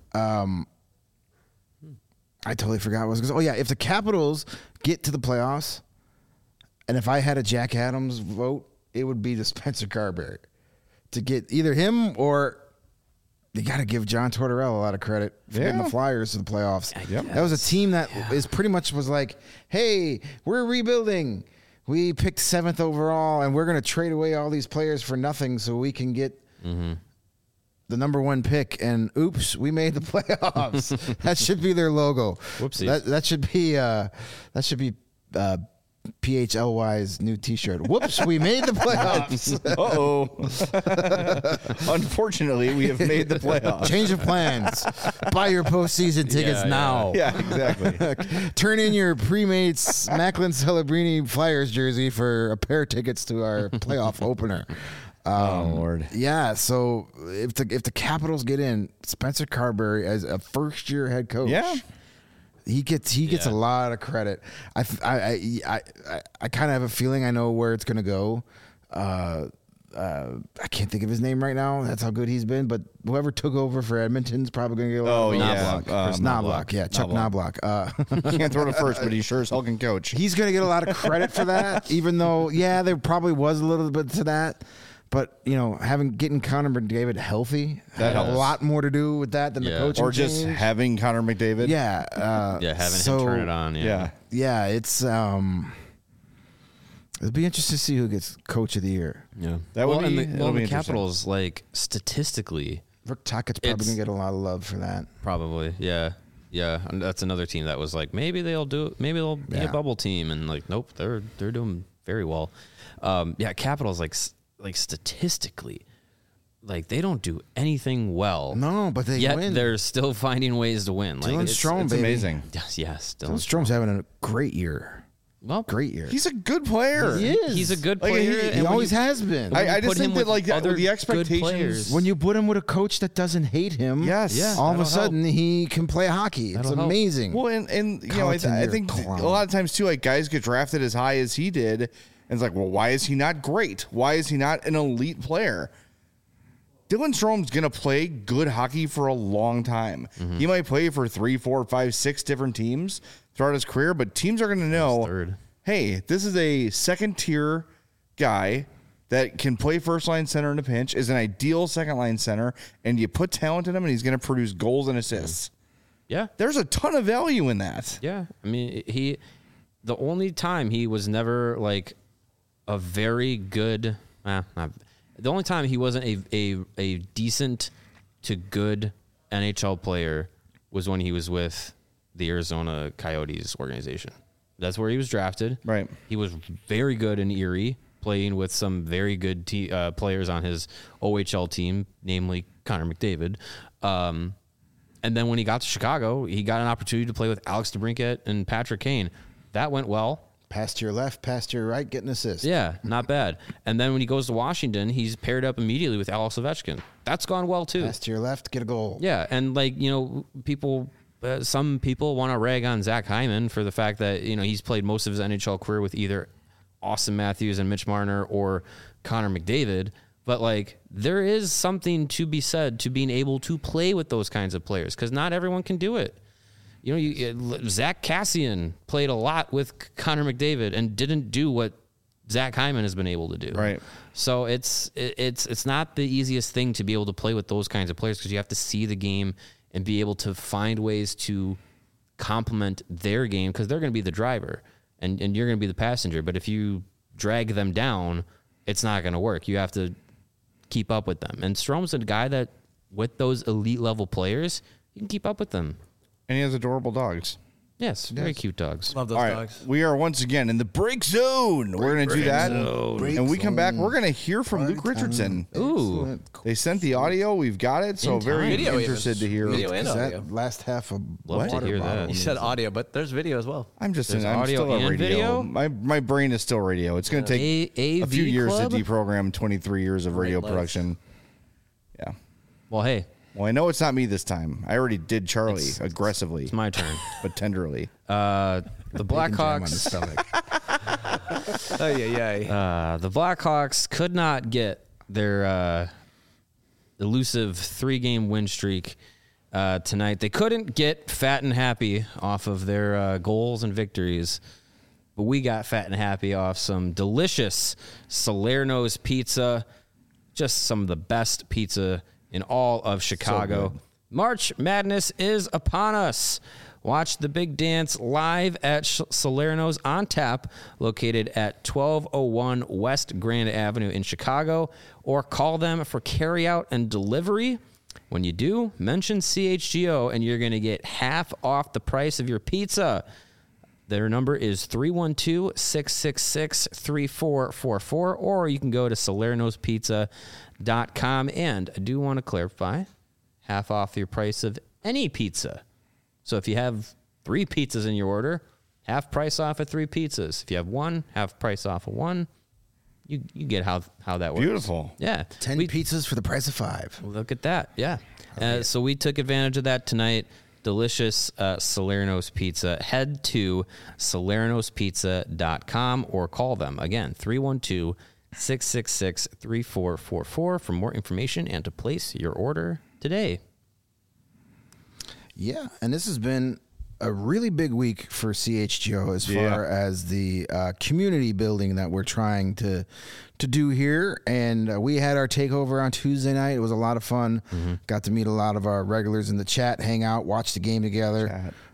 I totally forgot what was. If the Capitals get to the playoffs, and if I had a Jack Adams vote, it would be to Spencer Carberry to get either him or you got to give John Tortorella a lot of credit for getting the Flyers to the playoffs. That was a team that is pretty much was like, hey, we're rebuilding. We picked 7th overall, and we're going to trade away all these players for nothing so we can get the number 1 pick. And oops, we made the playoffs. That should be their logo. Whoopsies. That should be PHLY's new T-shirt. Whoops, we made the playoffs. Unfortunately, we have made the playoffs. Change of plans. Buy your postseason tickets now. Yeah, exactly. Turn in your pre-made Macklin Celebrini Flyers jersey for a pair of tickets to our playoff opener. Oh Lord. Yeah, so if the Capitals get in, Spencer Carberry as a first-year head coach. Yeah. He gets a lot of credit. I kind of have a feeling I know where it's going to go. I can't think of his name right now. That's how good he's been. But whoever took over for Edmonton's probably going to get a lot of Knobloch. Yeah, Chuck Knobloch. Can't throw to first, but he sure as hell can coach. He's going to get a lot of credit for that, even though, there probably was a little bit to that. But, getting Connor McDavid healthy had a lot more to do with that than the coaching or just change. having Connor McDavid. Yeah. Having him turn it on. Yeah, it's it'll be interesting to see who gets Coach of the Year. Yeah. That would be the Capitals, statistically, Rick Tocchet's probably going to get a lot of love for that. Probably, yeah. Yeah, and that's another team that was maybe they'll do it. Maybe they'll be a bubble team, and nope, they're doing very well. Capitals like statistically, like they don't do anything well. No, but they win. They're still finding ways to win. Dylan Strome, it's amazing. Yes, Dylan Strome's having a great year. Well, great year. He's a good player. He is. He's a good player. He always has been. I just think that the expectations. When you put him with a coach that doesn't hate him, all of a sudden he can play hockey. It's amazing. Well, and you know, I think a lot of times too, like guys get drafted as high as he did, and it's like, well, why is he not great? Why is he not an elite player? Dylan Strome's going to play good hockey for a long time. Mm-hmm. He might play for 3, 4, 5, 6 different teams throughout his career, but teams are going to know, hey, this is a second-tier guy that can play first-line center in a pinch, is an ideal second-line center, and you put talent in him, and he's going to produce goals and assists. Yeah. There's a ton of value in that. Yeah. I mean, the only time he was never, like, a very good the only time he wasn't a decent to good NHL player was when he was with the Arizona Coyotes organization. That's where he was drafted. Right. He was very good in Erie, playing with some very good players on his OHL team, namely Connor McDavid. And then when he got to Chicago, he got an opportunity to play with Alex DeBrincat and Patrick Kane. That went well. Pass to your left, pass to your right, getting assists. Yeah, not bad. And then when he goes to Washington, he's paired up immediately with Alex Ovechkin. That's gone well too. Pass to your left, get a goal. Yeah, and some people want to rag on Zach Hyman for the fact that he's played most of his NHL career with either Austin Matthews and Mitch Marner or Connor McDavid. But there is something to be said to being able to play with those kinds of players because not everyone can do it. Zach Kassian played a lot with Connor McDavid and didn't do what Zach Hyman has been able to do. Right. So it's not the easiest thing to be able to play with those kinds of players because you have to see the game and be able to find ways to complement their game because they're going to be the driver and you're going to be the passenger. But if you drag them down, it's not going to work. You have to keep up with them. And Strome's a guy that with those elite level players, you can keep up with them. And he has adorable dogs. Yes, very cute dogs. Love those dogs. We are once again in the break zone. We're going to do that. And we come back, we're going to hear from Luke Richardson. Ooh. They sent the audio. We've got it. So very interested to hear. Video and audio. That last half of Love to hear that. You said audio, but there's video as well. I'm audio still a radio. Video? My brain is still radio. It's going to take a few years to deprogram 23 years of radio production. Yeah. Well, hey. Well, I know it's not me this time. I already did Charlie aggressively. It's my turn. But tenderly. The Blackhawks. The Blackhawks could not get their elusive 3-game win streak tonight. They couldn't get fat and happy off of their goals and victories. But we got fat and happy off some delicious Salerno's pizza. Just some of the best pizza in all of Chicago. So March Madness is upon us. Watch the big dance live at Salerno's on tap, located at 1201 West Grand Avenue in Chicago, or call them for carryout and delivery. When you do, mention CHGO and you're going to get half off the price of your pizza. Their number is 312-666-3444, or you can go to salernospizza.com. And I do want to clarify, half off your price of any pizza. So if you have 3 pizzas in your order, half price off of 3 pizzas. If you have 1, half price off of 1. You get how that works. Beautiful. Yeah. 10 pizzas for the price of 5. Look at that. Yeah. So we took advantage of that tonight. Delicious Salerno's Pizza. Head to salernospizza.com or call them. Again, 312-666-3444 for more information and to place your order today. Yeah, and this has been a really big week for CHGO as far as the community building that we're trying to do here. And we had our takeover on Tuesday night. It was a lot of fun. Mm-hmm. Got to meet a lot of our regulars in the chat, hang out, watch the game together.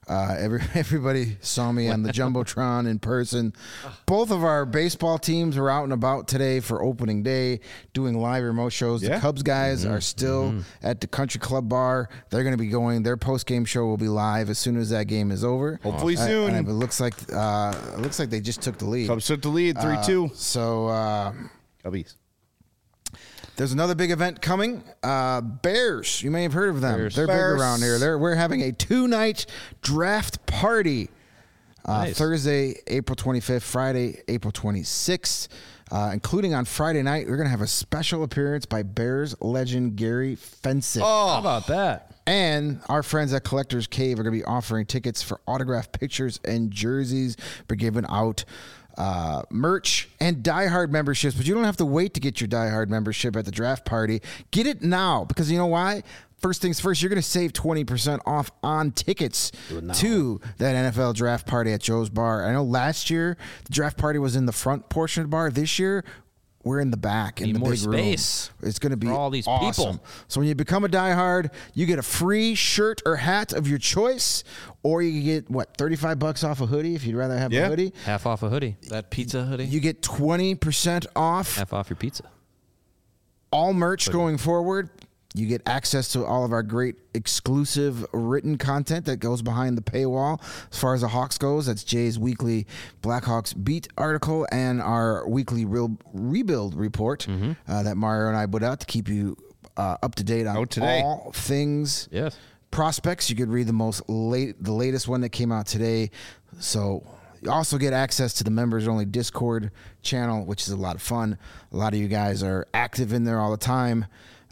Everybody saw me on the Jumbotron in person. Both of our baseball teams are out and about today for opening day, doing live remote shows. The Cubs guys are still at the Country Club Bar. They're going to be going. Their post-game show will be live as soon as that game is over. Hopefully soon. And it looks like they just took the lead. Cubs took the lead, 3-2. Cubbies. There's another big event coming. Bears. You may have heard of them. They're big around here. We're having a 2-night draft party. Nice. Thursday, April 25th, Friday, April 26th. Including on Friday night, we're going to have a special appearance by Bears legend Gary Fensick. Oh, how about that? And our friends at Collector's Cave are going to be offering tickets for autographed pictures and jerseys. We're giving out merch and Die Hard memberships, but you don't have to wait to get your Die Hard membership at the draft party. Get it now, because you know why? First things first, you're going to save 20% off on tickets to that NFL draft party at Joe's Bar. I know last year the draft party was in the front portion of the bar. This year we're in the back in the big space room. It's going to be for all these awesome. people. So when you become a diehard, you get a free shirt or hat of your choice, or you get $35 off a hoodie if you'd rather have a hoodie. Half off a hoodie. That pizza hoodie. You get 20% off. Half off your pizza. All merch going forward. You get access to all of our great exclusive written content that goes behind the paywall. As far as the Hawks goes, that's Jay's weekly Blackhawks beat article and our weekly rebuild report that Mario and I put out to keep you up to date on all things prospects. You could read the latest one that came out today. So you also get access to the members-only Discord channel, which is a lot of fun. A lot of you guys are active in there all the time.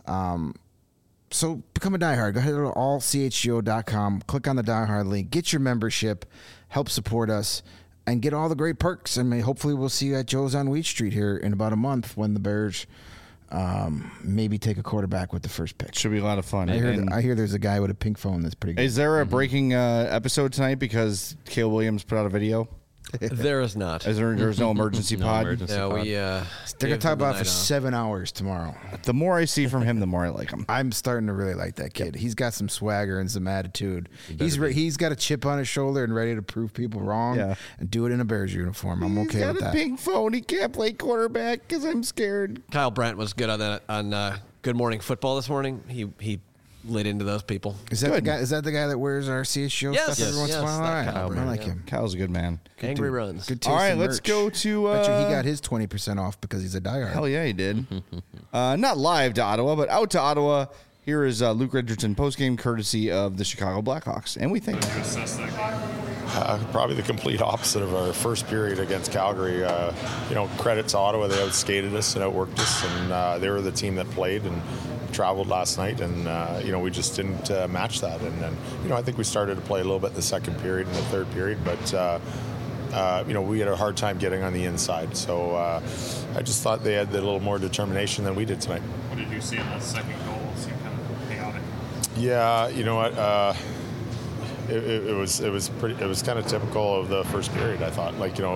So become a diehard. Go ahead to allchgo.com, click on the diehard link, get your membership, help support us, and get all the great perks. And hopefully we'll see you at Joe's on Wheat Street here in about a month when the Bears maybe take a quarterback with the first pick. Should be a lot of fun. I hear there's a guy with a pink phone that's pretty good. Is there a breaking episode tonight because Caleb Williams put out a video? There is not. There's no emergency pod? No, they're going to talk about it for 7 hours tomorrow. The more I see from him, the more I like him. I'm starting to really like that kid. He's got some swagger and some attitude. He's got a chip on his shoulder and ready to prove people wrong and do it in a Bears uniform. I'm okay with that. He's got a pink phone. He can't play quarterback because I'm scared. Kyle Brandt was good on that on Good Morning Football this morning. He lit into those people. Is that the guy? Is that the guy that wears our CSGO stuff every once in a while? All right, I like him. Kyle's a good man. Angry runs. Good taste. All right, let's go to. Bet you he got his 20% off because he's a diehard. Hell yeah, he did. Not live to Ottawa, but out to Ottawa. Here is Luke Richardson postgame courtesy of the Chicago Blackhawks, and we think probably the complete opposite of our first period against Calgary. Credit to Ottawa, they outskated us and outworked us, and they were the team that played and traveled last night, and we just didn't match that. And then I think we started to play a little bit in the second period and the third period, but we had a hard time getting on the inside. So I just thought they had a little more determination than we did tonight. What did you see in that second goal? It seemed kind of chaotic. Yeah, you know what? It was kind of typical of the first period. I thought,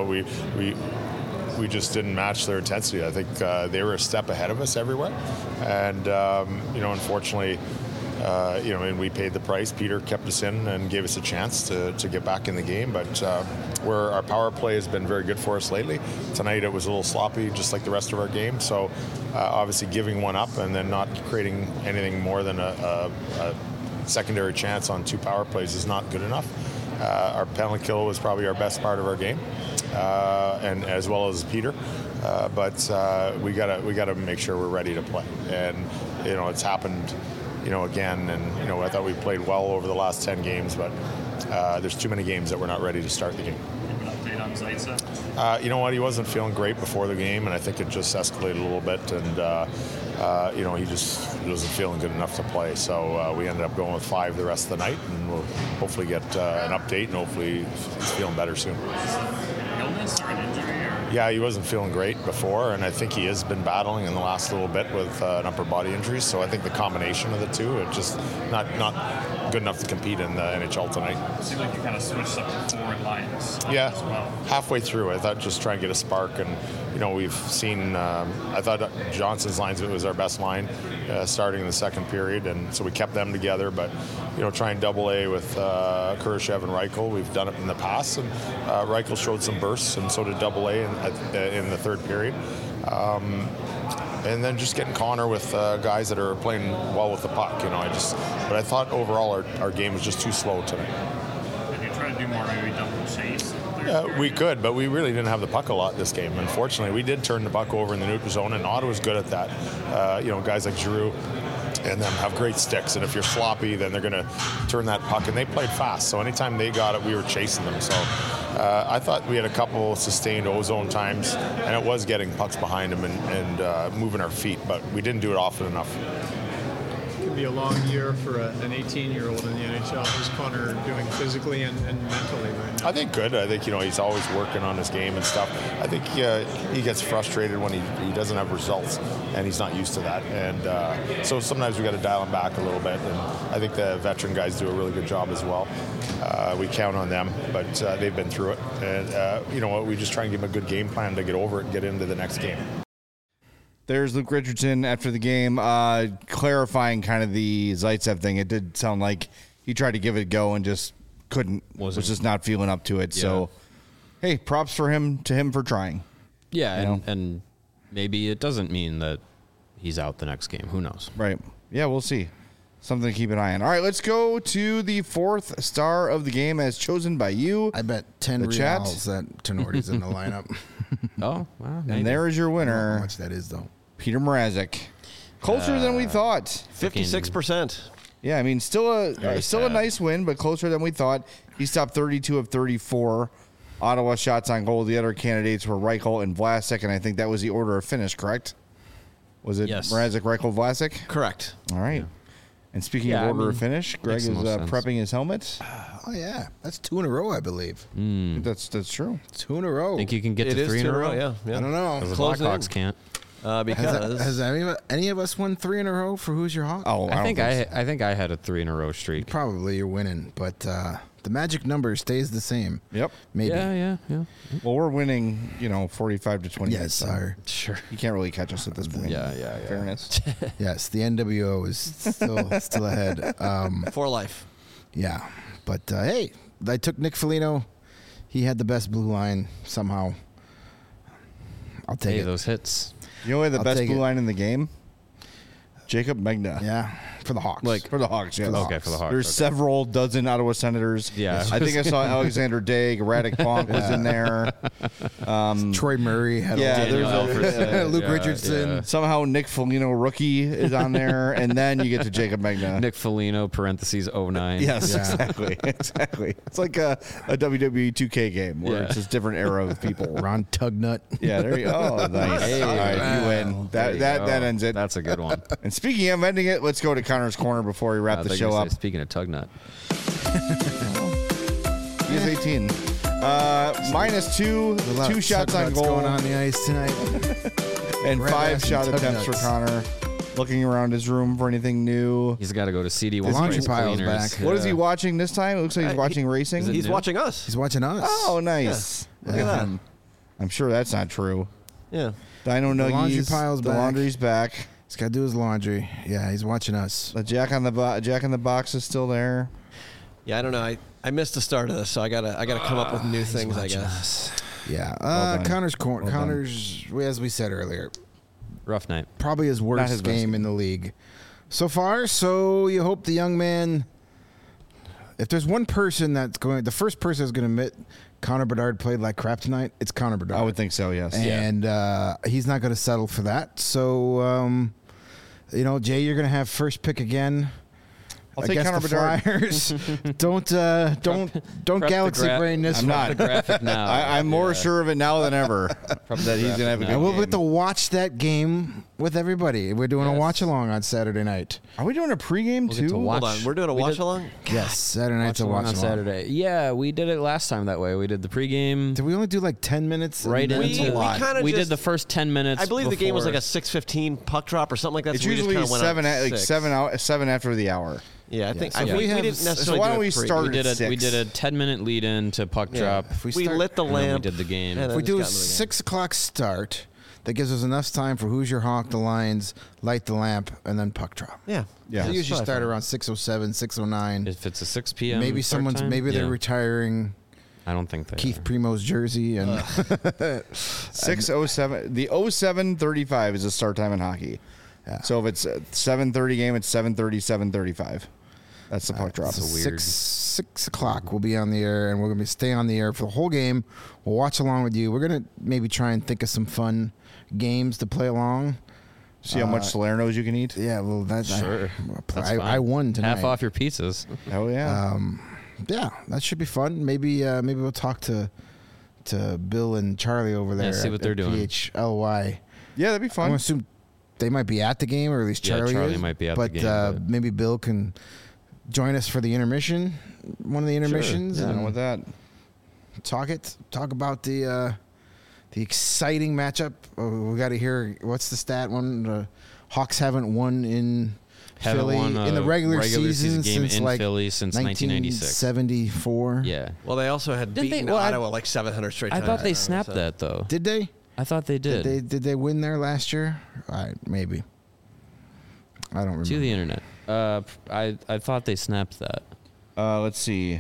we just didn't match their intensity. I think they were a step ahead of us everywhere, and unfortunately, and we paid the price. Peter kept us in and gave us a chance to get back in the game. But where our power play has been very good for us lately, tonight it was a little sloppy, just like the rest of our game. So obviously, giving one up and then not creating anything more than a secondary chance on two power plays is not good enough. Our penalty kill was probably our best part of our game, and as well as Peter. But we gotta make sure we're ready to play. And it's happened, again. And I thought we played well over the last 10 games, but there's too many games that we're not ready to start the game. An update on Zaitsev? You know what? He wasn't feeling great before the game, and I think it just escalated a little bit. And he just wasn't feeling good enough to play. So we ended up going with 5 the rest of the night, and we'll hopefully get an update, and hopefully he's feeling better soon. An illness or an injury? Yeah, he wasn't feeling great before, and I think he has been battling in the last little bit with an upper body injury. So I think the combination of the two, it just not good enough to compete in the NHL tonight. It seemed like you kind of switched up the forward lines as well. Halfway through, I thought just try and get a spark. And, we've seen, I thought Johnson's lines was our best line starting in the second period. And so we kept them together. But, trying double A with Kurashev and Reichel. We've done it in the past. And Reichel showed some bursts, and so did double A in the third period. And then just getting Connor with guys that are playing well with the puck, But I thought overall our game was just too slow tonight. Did you try to do more maybe double chase? Yeah, we could, but we really didn't have the puck a lot this game. Unfortunately, we did turn the puck over in the neutral zone, and Ottawa's good at that. Guys like Giroux and them have great sticks, and if you're sloppy, then they're going to turn that puck, and they played fast. So anytime they got it, we were chasing them. So I thought we had a couple sustained ozone times, and it was getting pucks behind them and moving our feet, but we didn't do it often enough. It can be a long year for an 18-year-old in the NHL. How's Connor doing physically and mentally right now? I think good. I think, he's always working on his game and stuff. I think he gets frustrated when he doesn't have results, and he's not used to that. And so sometimes we got to dial him back a little bit, and I think the veteran guys do a really good job as well. We count on them, but they've been through it. And, we just try and give them a good game plan to get over it and get into the next game. There's Luke Richardson after the game, clarifying kind of the Zaitsev thing. It did sound like he tried to give it a go and just couldn't, was just not feeling up to it. Yeah. So, hey, props for him for trying. Yeah, and maybe it doesn't mean that he's out the next game. Who knows? Right. Yeah, we'll see. Something to keep an eye on. All right, let's go to the fourth star of the game as chosen by you. I bet 10 reals that Tenorti's in the lineup. Oh, wow. And there is your winner. I don't know how much that is, though. Peter Mrazek. Closer than we thought. 56%. Yeah, I mean, still a nice win, but closer than we thought. He stopped 32 of 34. Ottawa shots on goal. The other candidates were Reichel and Vlasic, and I think that was the order of finish, correct? Was it Mrazek, Reichel, Vlasic? Correct. All right. Yeah. And speaking of order of finish, Greg is prepping his helmet. Oh, yeah. That's 2 in a row, I believe. That's true. 2 in a row. Think you can get to 3 in a row? Yeah. I don't know. Because the Blackhawks can't. Because has any of us won 3 in a row for Who's Your Hawk? Oh, I think I had a 3 in a row streak. Probably you're winning, but the magic number stays the same. Yep. Maybe. Yeah. Well, we're winning, 45 to 20. Yes, sir. Sure. You can't really catch us at this point. Yeah. Fairness. Yes, the NWO is still ahead. For life. Yeah, but hey, I took Nick Foligno. He had the best blue line somehow. I'll take it. Those hits. You know who had the best blue line in the game? Jacob Megna. Yeah, for the Hawks. For the Hawks, yes. For the Hawks. There's several dozen Ottawa Senators. Yeah. I think I saw Alexander Daigle, Radek Bonk was in there. Troy Murray had Luke Richardson. Yeah. Somehow Nick Foligno rookie is on there, and then you get to Jacob Megna. Nick Foligno, parentheses, 09. Yes, exactly. It's like a WWE 2K game where it's just different era of people. Ron Tugnut. Yeah, there you go. Oh, nice. Hey, all right, you win. That ends it. That's a good one. And speaking of ending it, let's go to Connor's Corner before we wrap the show up. Speaking of Tugnut. He is 18. -2, 2 shots on goal. Going on the ice tonight. And 5 shot attempts for Connor. Looking around his room for anything new. He's got to go to CD. The laundry pile's back. What is he watching this time? It looks like he's watching racing. He's watching us. He's watching us. Oh, nice. Yeah. Look at that. I'm sure that's not true. Yeah. Dino Nuggies. The laundry pile's back. The laundry's back. He's got to do his laundry. Yeah, he's watching us. The Jack in the Box is still there. Yeah, I don't know. I missed the start of this, so I gotta come up with new things, I guess. Yeah. Connor's Corner. Connor's, as we said earlier, rough night. Probably his worst game in the league so far. So you hope the young man. If there's one person the first person that's going to admit Connor Bedard played like crap tonight, it's Connor Bedard. I would think so, yes. And he's not going to settle for that. So, Jay, you're going to have first pick again. I'll take Connor Bedard. Flyers. don't galaxy brain this. I'm not. The graphic now. I'm more sure of it now than ever that he's going to have a good game. And we'll get to watch that game with everybody. We're doing a watch along on Saturday night. Are we doing a pregame too? Hold on, we're doing a watch along. Yes, Saturday night's a watch along on Saturday. Yeah, we did it last time that way. We did the pregame. Did we only do like 10 minutes? Right into we did the first 10 minutes. I believe the game was like a 6:15 puck drop or something like that. It's usually 7 after the hour. Yeah, I think so we didn't necessarily. So why don't we start? We did a 10-minute lead in to puck drop. If we lit the lamp. We did the game. If we do a 6 o'clock start, that gives us enough time for Who's Your Hawk, the Lions, light the lamp, and then puck drop. Yeah. They usually start around 6:07, 6:09. If it's a 6 p.m. maybe they're retiring. I don't think they Keith Primo's jersey and 6:07. The 07:35 is the start time in hockey. Yeah. So if it's a 7:30 game, it's 7:30, 7:35. That's the puck drop. That's weird. 6 o'clock we'll be on the air, and we're going to stay on the air for the whole game. We'll watch along with you. We're going to maybe try and think of some fun games to play along. See how much Salerno's you can eat? Yeah, well, that's sure. I won tonight. Half off your pizzas. Oh, yeah. Yeah, that should be fun. Maybe we'll talk to Bill and Charlie over there. Yeah, see what they're doing. PHLY. Yeah, that'd be fun. I'm going to assume they might be at the game, or at least Charlie is. Might be at the game. But maybe Bill can join us for the intermission, one of the intermissions. Sure. Yeah, with that. Talk about the exciting matchup. We got to hear, what's the stat one? The Hawks haven't won in Philly in the regular season game since in Philly since 1996. 1974. Yeah. Well, they also had beaten Ottawa like 700 straight times. I thought they snapped that though. Did they? I thought they did. Did they win there last year? Maybe. I don't remember. To the internet. I thought they snapped that. Let's see.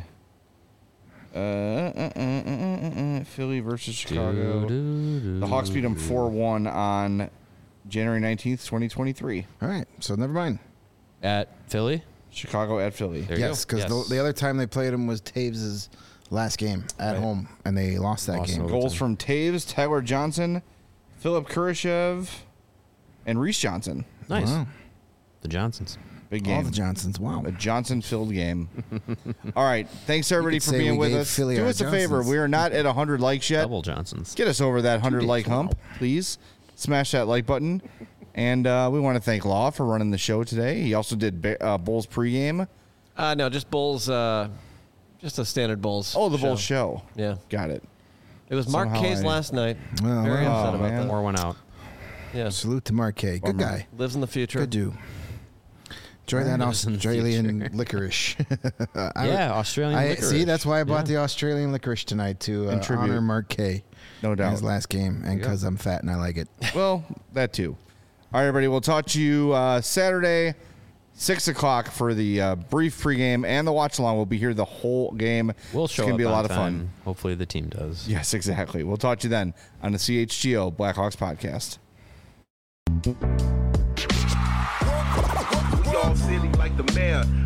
Philly versus Chicago. The Hawks beat them 4-1 on January 19th, 2023. All right, so never mind. At Philly? Chicago at Philly. Yes, because the other time they played them was Taves' last game at home, and they lost that game. Goals from Taves, Tyler Johnson, Philip Kurashev, and Reese Johnson. Nice. Wow. The Johnsons. Big game. All the Johnsons. Wow. A Johnson-filled game. All right. Thanks, everybody, for being with us. Do us a favor. We are not at 100 likes yet. Double Johnsons. Get us over that 100-like hump, please. Smash that like button. And we want to thank Law for running the show today. He also did Bulls pregame. No, just Bulls. Just a standard Bulls. Oh, the Bulls show. Yeah. Got it. It was Mark K's last night. Very upset about that. More went out. Yeah. Salute to Mark K. Good guy. Lives in the future. Good dude. Enjoy that Australian licorice. Australian licorice. See, that's why I bought the Australian licorice tonight to honor Mark K. No doubt. His last game, and because I'm fat and I like it. Well, that too. All right, everybody. We'll talk to you Saturday, 6 o'clock for the brief pregame and the watch along. We'll be here the whole game. We'll show it's gonna up be a lot on of time. fun. Hopefully the team does. Yes, exactly. We'll talk to you then on the CHGO Blackhawks podcast. We all silly like the mayor.